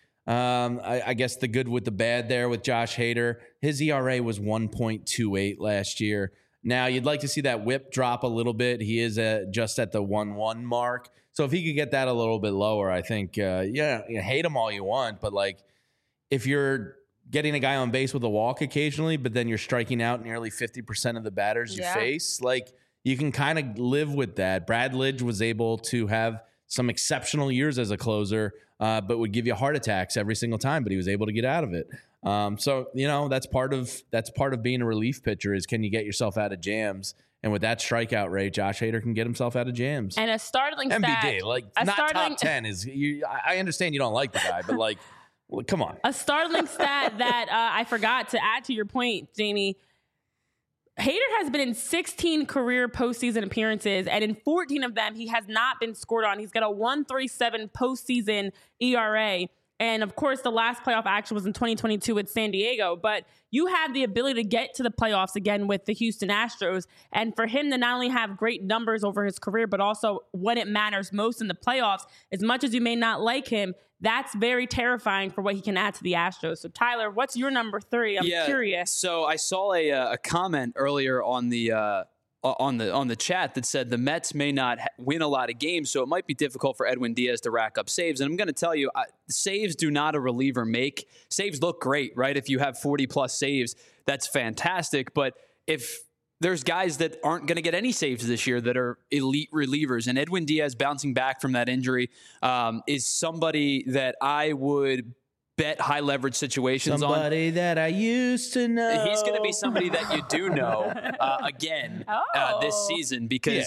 I guess, the good with the bad there with Josh Hader. His ERA was 1.28 last year. Now, you'd like to see that whip drop a little bit. He is just at the 1.1 mark. So if he could get that a little bit lower, I think, hate him all you want. But, if you're getting a guy on base with a walk occasionally, but then you're striking out nearly 50% of the batters you face, you can kind of live with that. Brad Lidge was able to have some exceptional years as a closer, but would give you heart attacks every single time, but he was able to get out of it. So that's part of being a relief pitcher is can you get yourself out of jams? And with that strikeout rate, Josh Hader can get himself out of jams. And a startling stat. MBD, top 10 is you. I understand you don't like the guy, but come on. A startling stat that I forgot to add to your point, Jamie. Hader has been in 16 career postseason appearances, and in 14 of them, he has not been scored on. He's got a 1.37 postseason ERA. And of course, the last playoff action was in 2022 with San Diego. But you have the ability to get to the playoffs again with the Houston Astros. And for him to not only have great numbers over his career, but also when it matters most in the playoffs, as much as you may not like him, that's very terrifying for what he can add to the Astros. So, Tyler, what's your number 3? I'm curious. So I saw a comment earlier on the on the chat that said the Mets may not win a lot of games, so it might be difficult for Edwin Diaz to rack up saves. And I'm going to tell you, saves do not a reliever make. Saves look great, right? If you have 40-plus saves, that's fantastic. But if there's guys that aren't going to get any saves this year that are elite relievers, and Edwin Diaz bouncing back from that injury is somebody that I would bet high leverage situations somebody that I used to know. He's going to be somebody that you do know again this season, because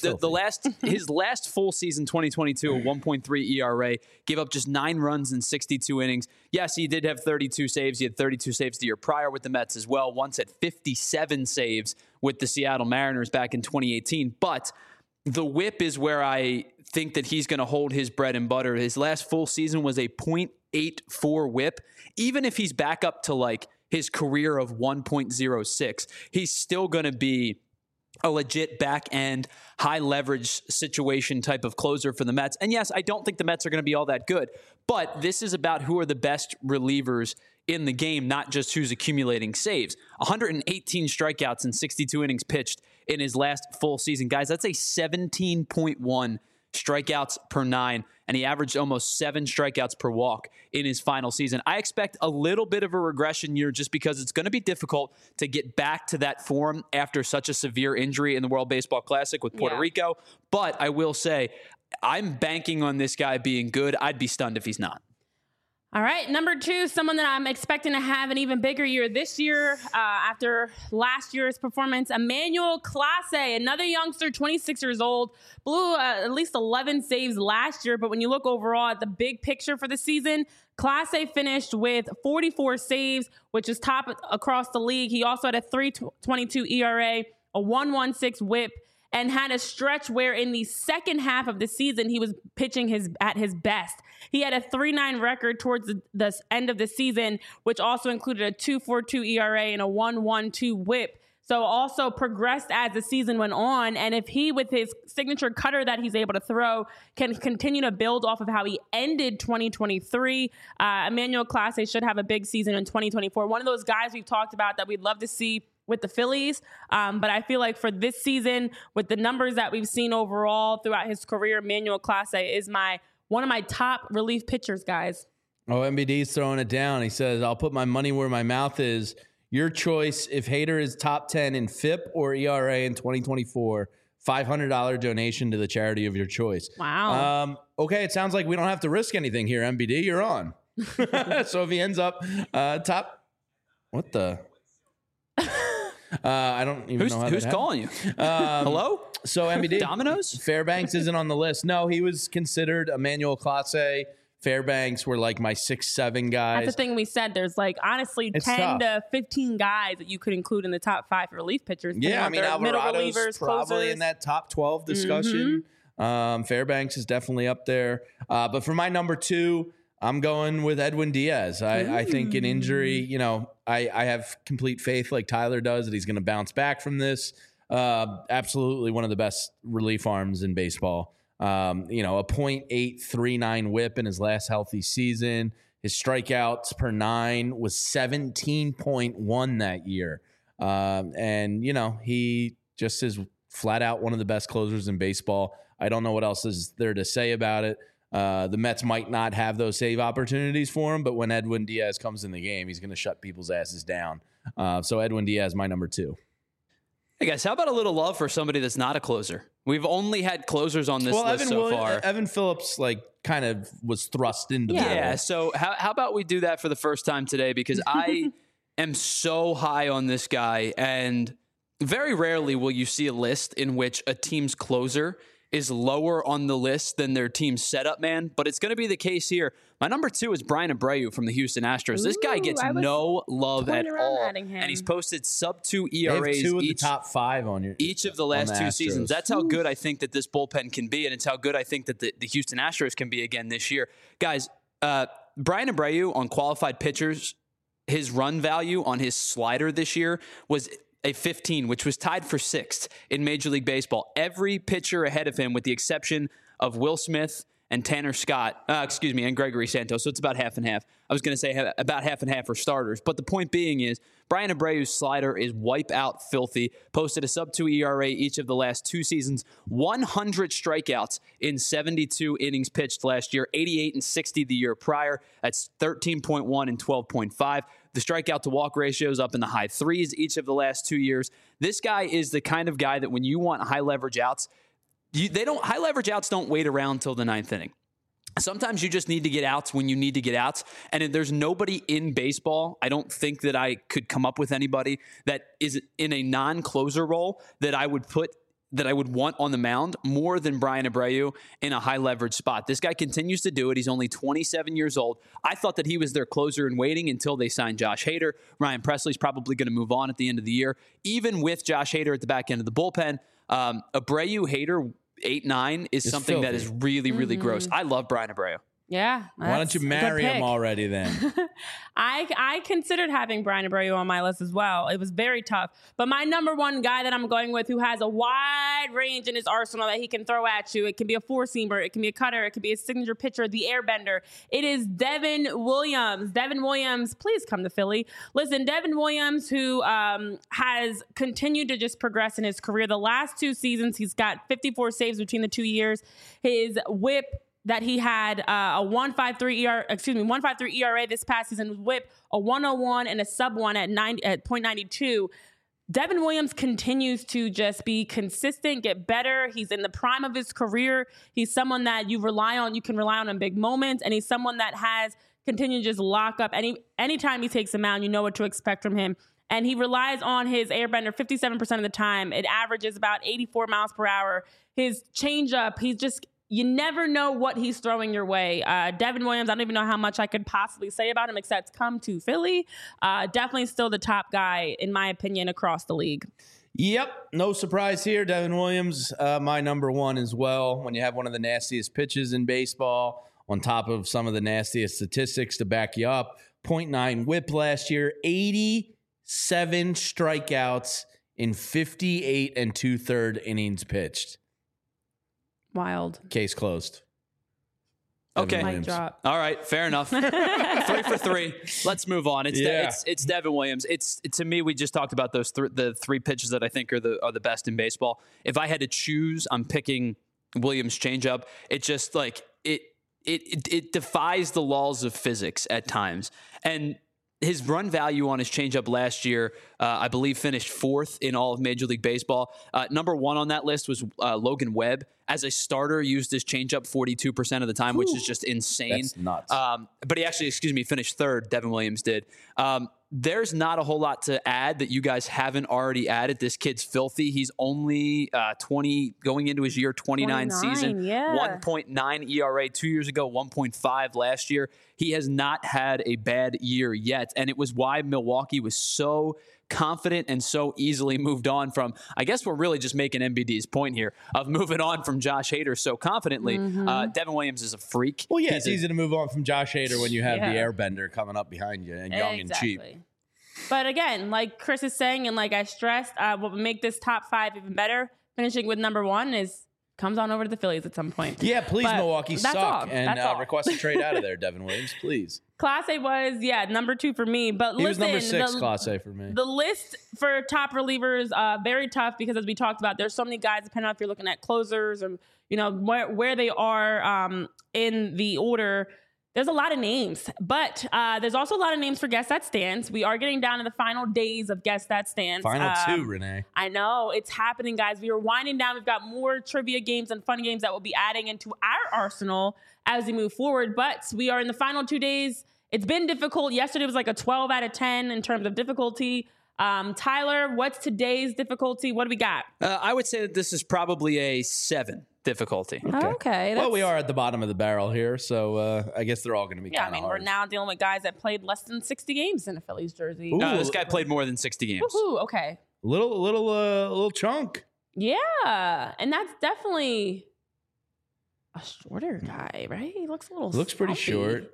his last full season, 2022, a 1.3 ERA, gave up just 9 runs in 62 innings. Yes, he did have 32 saves. He had 32 saves the year prior with the Mets as well. Once at 57 saves with the Seattle Mariners back in 2018. But the whip is where I think that he's going to hold his bread and butter. His last full season was a .84 whip. Even if he's back up to like his career of 1.06, he's still going to be a legit back end, high leverage situation type of closer for the Mets. And yes, I don't think the Mets are going to be all that good, but this is about who are the best relievers in the game, not just who's accumulating saves. 118 strikeouts in 62 innings pitched in his last full season. Guys, that's a 17.1 strikeouts per 9, and he averaged almost 7 strikeouts per walk in his final season. I expect a little bit of a regression year just because it's going to be difficult to get back to that form after such a severe injury in the World Baseball Classic with Puerto Rico. But I will say, I'm banking on this guy being good. I'd be stunned if he's not. All right, number 2, someone that I'm expecting to have an even bigger year this year after last year's performance, Emmanuel Clase, another youngster, 26 years old, blew at least 11 saves last year. But when you look overall at the big picture for the season, Clase finished with 44 saves, which is top across the league. He also had a 3.22 ERA, a 1.16 whip, and had a stretch where in the second half of the season, he was pitching at his best. He had a 3.9 record towards the end of the season, which also included a 2.42 ERA and a 1.12 whip. So also progressed as the season went on. And if he, with his signature cutter that he's able to throw, can continue to build off of how he ended 2023, Emmanuel Clase should have a big season in 2024. One of those guys we've talked about that we'd love to see with the Phillies. But I feel like for this season, with the numbers that we've seen overall throughout his career, Emmanuel Clase is one of my top relief pitchers, guys. Oh, MBD's throwing it down. He says, I'll put my money where my mouth is. Your choice, if Hader is top 10 in FIP or ERA in 2024, $500 donation to the charity of your choice. Wow. Okay, it sounds like we don't have to risk anything here, MBD. You're on. So if he ends up top... What the... I don't even know how who's calling you. Hello? So MBD Domino's? Fairbanks isn't on the list. No, he was considered Emmanuel Clase. Fairbanks were like my 6-7 guys. That's the thing we said. There's like honestly It's 10 tough. to 15 guys that you could include in the top 5 relief pitchers. Yeah, I mean Alvarado's probably closers. in that top 12 discussion. Fairbanks is definitely up there. But for my number 2, I'm going with Edwin Diaz. I think an injury, I have complete faith like Tyler does that he's going to bounce back from this. Absolutely one of the best relief arms in baseball. A .839 whip in his last healthy season. His strikeouts per 9 was 17.1 that year. He just is flat out one of the best closers in baseball. I don't know what else is there to say about it. The Mets might not have those save opportunities for him, but when Edwin Diaz comes in the game, he's going to shut people's asses down. So Edwin Diaz, my number 2. Hey guys, how about a little love for somebody that's not a closer? We've only had closers on this list so far. Evan Phillips kind of was thrust into the Yeah, so how about we do that for the first time today? Because I am so high on this guy, and very rarely will you see a list in which a team's closer is lower on the list than their team's setup man, but it's going to be the case here. My number 2 is Brian Abreu from the Houston Astros. This guy gets no love at all, and he's posted sub-2 ERAs the top 5 on each of the last 2 seasons. That's how good I think that this bullpen can be, and it's how good I think that the Houston Astros can be again this year. Guys, Brian Abreu on qualified pitchers, his run value on his slider this year was a 15, which was tied for 6th in Major League Baseball. Every pitcher ahead of him, with the exception of Will Smith and Tanner Scott, and Gregory Santos. So it's about half and half. I was going to say about half and half for starters. But the point being is Bryan Abreu's slider is wipe out filthy. Posted a sub-2 ERA each of the last 2 seasons. 100 strikeouts in 72 innings pitched last year. 88 and 60 the year prior. That's 13.1 and 12.5. The strikeout to walk ratio is up in the high 3s each of the last 2 years. This guy is the kind of guy that when you want high leverage outs, high leverage outs don't wait around till the 9th inning. Sometimes you just need to get outs when you need to get outs. And if there's nobody in baseball, I don't think that I could come up with anybody that is in a non-closer role that I would want on the mound more than Bryan Abreu in a high leverage spot. This guy continues to do it. He's only 27 years old. I thought that he was their closer in waiting until they signed Josh Hader. Ryan Presley's probably going to move on at the end of the year. Even with Josh Hader at the back end of the bullpen, Abreu, Hader, 8-9 is something filthy. That is really, really gross. I love Bryan Abreu. Yeah. Why don't you marry him already then? I considered having Bryan Abreu on my list as well. It was very tough. But my number one guy that I'm going with who has a wide range in his arsenal that he can throw at you. It can be a four-seamer. It can be a cutter. It can be a signature pitcher, the airbender. It is Devin Williams. Devin Williams, please come to Philly. Listen, Devin Williams, who has continued to just progress in his career. The last 2 seasons, he's got 54 saves betwbetween the 2 years. His whip that he had a 1.53 ERA this past season with whip, a 101 and a sub-1 at 0.92. Devin Williams continues to just be consistent, get better. He's in the prime of his career. He's someone that you can rely on in big moments, and he's someone that has continued to just lock up. Anytime he takes a mound, you know what to expect from him. And he relies on his airbender 57% of the time. It averages about 84 miles per hour. His changeup, you never know what he's throwing your way. Devin Williams, I don't even know how much I could possibly say about him except come to Philly. Definitely still the top guy, in my opinion, across the league. Yep, no surprise here. Devin Williams, my number one as well. When you have one of the nastiest pitches in baseball, on top of some of the nastiest statistics to back you up. 0.9 whip last year, 87 strikeouts in 58 and 2/3 innings pitched. Wild. Case closed. Okay. Mic drop. All right. Fair enough. 3 for 3. Let's move on. It's Devin Williams. To me, we just talked about those the 3 pitches that I think are the best in baseball. If I had to choose, I'm picking Williams' changeup. It just it defies the laws of physics at times. And his run value on his changeup last year, I believe, finished 4th in all of Major League Baseball. Number 1 on that list was Logan Webb. As a starter, used his changeup 42% of the time, which is just insane. That's nuts. But he actually, finished 3rd. Devin Williams did. There's not a whole lot to add that you guys haven't already added. This kid's filthy. He's only 20, going into his year 29 season. Yeah. 1.9 ERA 2 years ago, 1.5 last year. He has not had a bad year yet, and it was why Milwaukee was so confident and so easily moved on from. I guess we're really just making MBD's point here of moving on from Josh Hader so confidently. Devin Williams is a freak. Well, yeah, it's easy to move on from Josh Hader when you have the airbender coming up behind you and young and cheap. But again, like Chris is saying, and like I stressed, what would make this top 5 even better, finishing with number 1, comes on over to the Phillies at some point. Yeah, please, but Milwaukee suck. And request a trade out of there, Devin Williams, please. Class A was, number 2 for me. But he was number 6, Class A for me. The list for top relievers, very tough because as we talked about, there's so many guys, depending on if you're looking at closers or, where they are in the order. There's a lot of names, but there's also a lot of names for Guess That Stands. We are getting down to the final days of Guess That Stands. Final 2, Renee. I know. It's happening, guys. We are winding down. We've got more trivia games and fun games that we'll be adding into our arsenal as we move forward. But we are in the final 2 days. It's been difficult. Yesterday was like a 12 out of 10 in terms of difficulty. Tyler, what's today's difficulty? What do we got? I would say that this is probably a 7 difficulty. Okay. Well, we are at the bottom of the barrel here, so I guess they're all going to be kind of hard. We're now dealing with guys that played less than 60 games in a Phillies jersey. No, this guy played more than 60 games. Woohoo, okay. Little chunk. Yeah, and that's definitely a shorter guy, right? He looks a little Looks pretty short.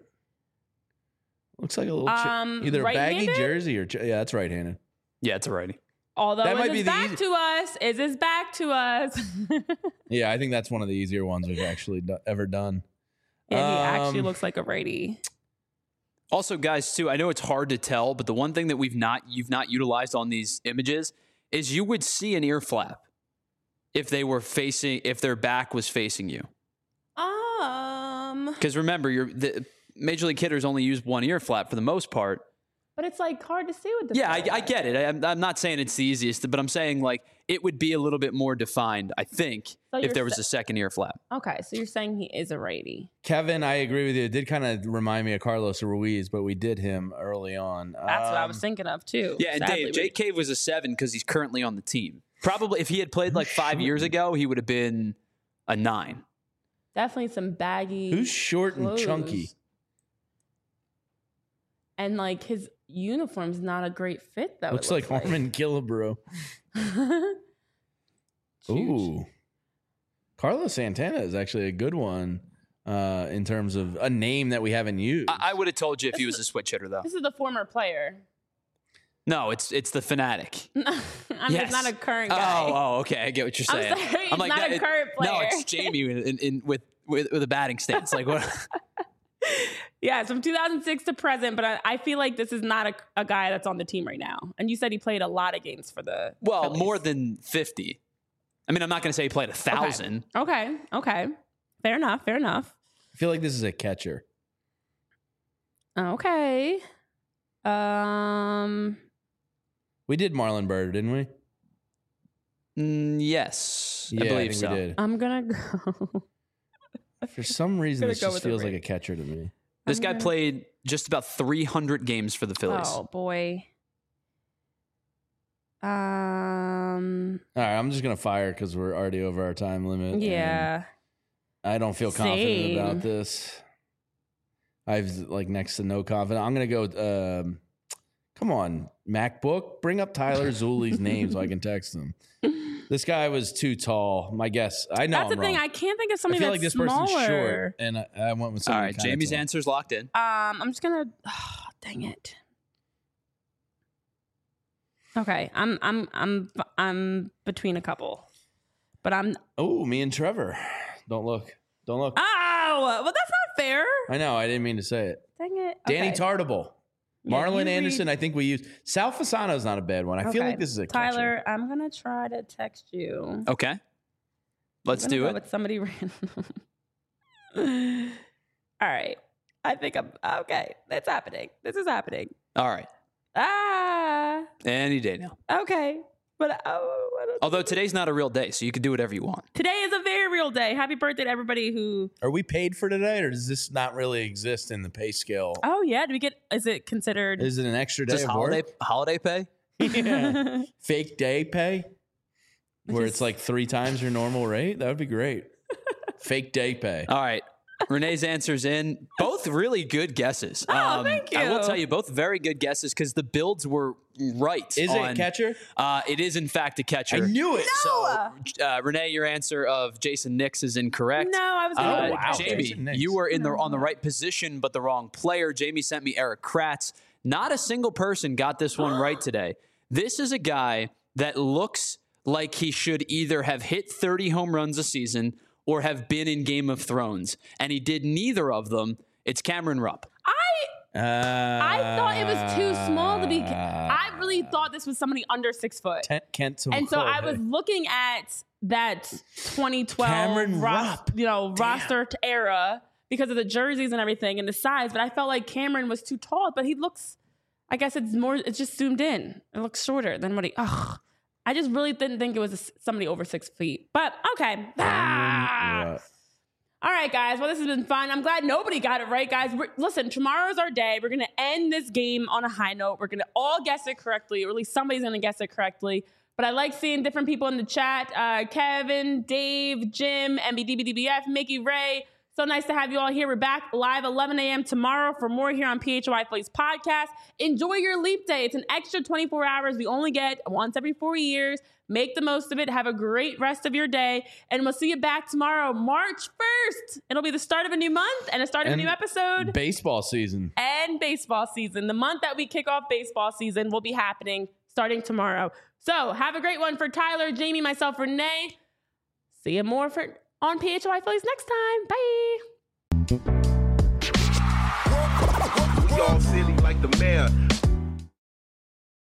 Looks like a little either a baggy jersey or that's right-handed. Yeah, it's a righty. Although that is back to us. Yeah, I think that's one of the easier ones we've actually ever done. Yeah, he actually looks like a righty. Also, guys, too, I know it's hard to tell, but the one thing that you've not utilized on these images is you would see an ear flap if their back was facing you. Because remember, the Major League hitters only use one ear flap for the most part. But it's like hard to see with the. Yeah, I get it. I'm not saying it's the easiest, but I'm saying like it would be a little bit more defined, I think, if there was a second ear flap. Okay, so you're saying he is a righty. Kevin, I agree with you. It did kind of remind me of Carlos Ruiz, but we did him early on. That's what I was thinking of too. Yeah, and sadly. Dave, Jake Cave was a 7 because he's currently on the team. Probably if he had played like 5 years ago, he would have been a 9. Definitely some baggy. Who's short clothes. and chunky? And like his uniform's not a great fit though. Looks like Harmon Killebrew. Ooh. Carlos Santana is actually a good one in terms of a name that we haven't used. I would have told you if he was a switch hitter, though. This is the former player. No, it's the fanatic. It's not a current guy. Oh, okay. I get what you're saying. I'm sorry, it's not a current player. No, it's Jamie with a batting stance. Like what? Yeah, it's from 2006 to present, but I feel like this is not a guy that's on the team right now. And you said he played a lot of games for the Phillies. More than 50. I mean, I'm not going to say he played 1,000. Okay. Fair enough. I feel like this is a catcher. Okay. We did Marlon Byrd, didn't we? Yes, Yeah, I believe think so. we did. I'm going to go. For some reason, this go just with feels the like a catcher to me. This guy played just about 300 games for the Phillies. Oh, boy. All right, I'm just going to fire because we're already over our time limit. Yeah. I don't feel confident Same. about this. I've like next to no confidence. I'm going to go, come on, MacBook, bring up Tyler Zuli's name so I can text him. This guy was too tall. My guess. I know That's I'm the thing. wrong. I can't think of I somebody feel that's like this smaller. person's short, and I went with All something. right, Jamie's answer's locked in. I'm just gonna. Oh, dang it. Okay, I'm between a couple, but I'm. Oh, me and Trevor. Don't look. Oh, well, that's not fair. I know. I didn't mean to say it. Dang it. Danny Okay. Tartable. Yeah, Marlon you Anderson, read- I think we used. Sal Fasano's not a bad one. I feel Okay. like this is a catcher. Tyler, I'm gonna try to text you. Okay, let's I'm gonna do go it. with somebody random. All right. I think I'm okay. It's happening. This is happening. All right, any day now. Okay. But I don't Although today's not a real day, so you can do whatever you want. Today is a very real day. Happy birthday to everybody who. Are we paid for today, or does this not really exist in the pay scale? Oh yeah, do we get? Is it considered? Is it an extra day Just of holiday pay? work? Yeah. Fake day pay, where Just- it's like 3 times your normal rate. That would be great. Fake day pay. All right. Renee's answer's in. Both really good guesses. Oh, thank I will you. tell you, both very good guesses because the builds were right. Is it a catcher? It is, in fact, a catcher. I knew it. So, Renee, your answer of Jason Nix is incorrect. No, I was. Gonna wow. Jamie, Jason Nix. you were on the right position, but the wrong player. Jamie sent me Eric Kratz. Not a single person got this one right today. This is a guy that looks like he should either have hit 30 home runs a season or have been in Game of Thrones, and he did neither of them. It's Cameron Rupp. I thought it was too small to be. I really thought this was somebody under 6 foot. Kent And so I was looking at that 2012 Cameron Rupp. roster era because of the jerseys and everything and the size, but I felt like Cameron was too tall, but he looks, I guess it's just zoomed in. It looks shorter than what I just really didn't think it was somebody over 6 feet, but okay. All right, guys. Well, this has been fun. I'm glad nobody got it right, guys. Listen, tomorrow's our day. We're going to end this game on a high note. We're going to all guess it correctly, or at least somebody's going to guess it correctly. But I like seeing different people in the chat. Kevin, Dave, Jim, MBDBDBF, Mickey, Ray. So nice to have you all here. We're back live 11 a.m. tomorrow for more here on PHY Phillies podcast. Enjoy your leap day. It's an extra 24 hours we only get once every 4 years. Make the most of it. Have a great rest of your day. And we'll see you back tomorrow, March 1st. It'll be the start of a new month and a start of a new episode. Baseball season. And baseball season. The month that we kick off baseball season will be happening starting tomorrow. So have a great one for Tyler, Jamie, myself, Renee. See you more on PHY Phillies next time. Bye. Ball City like the mayor.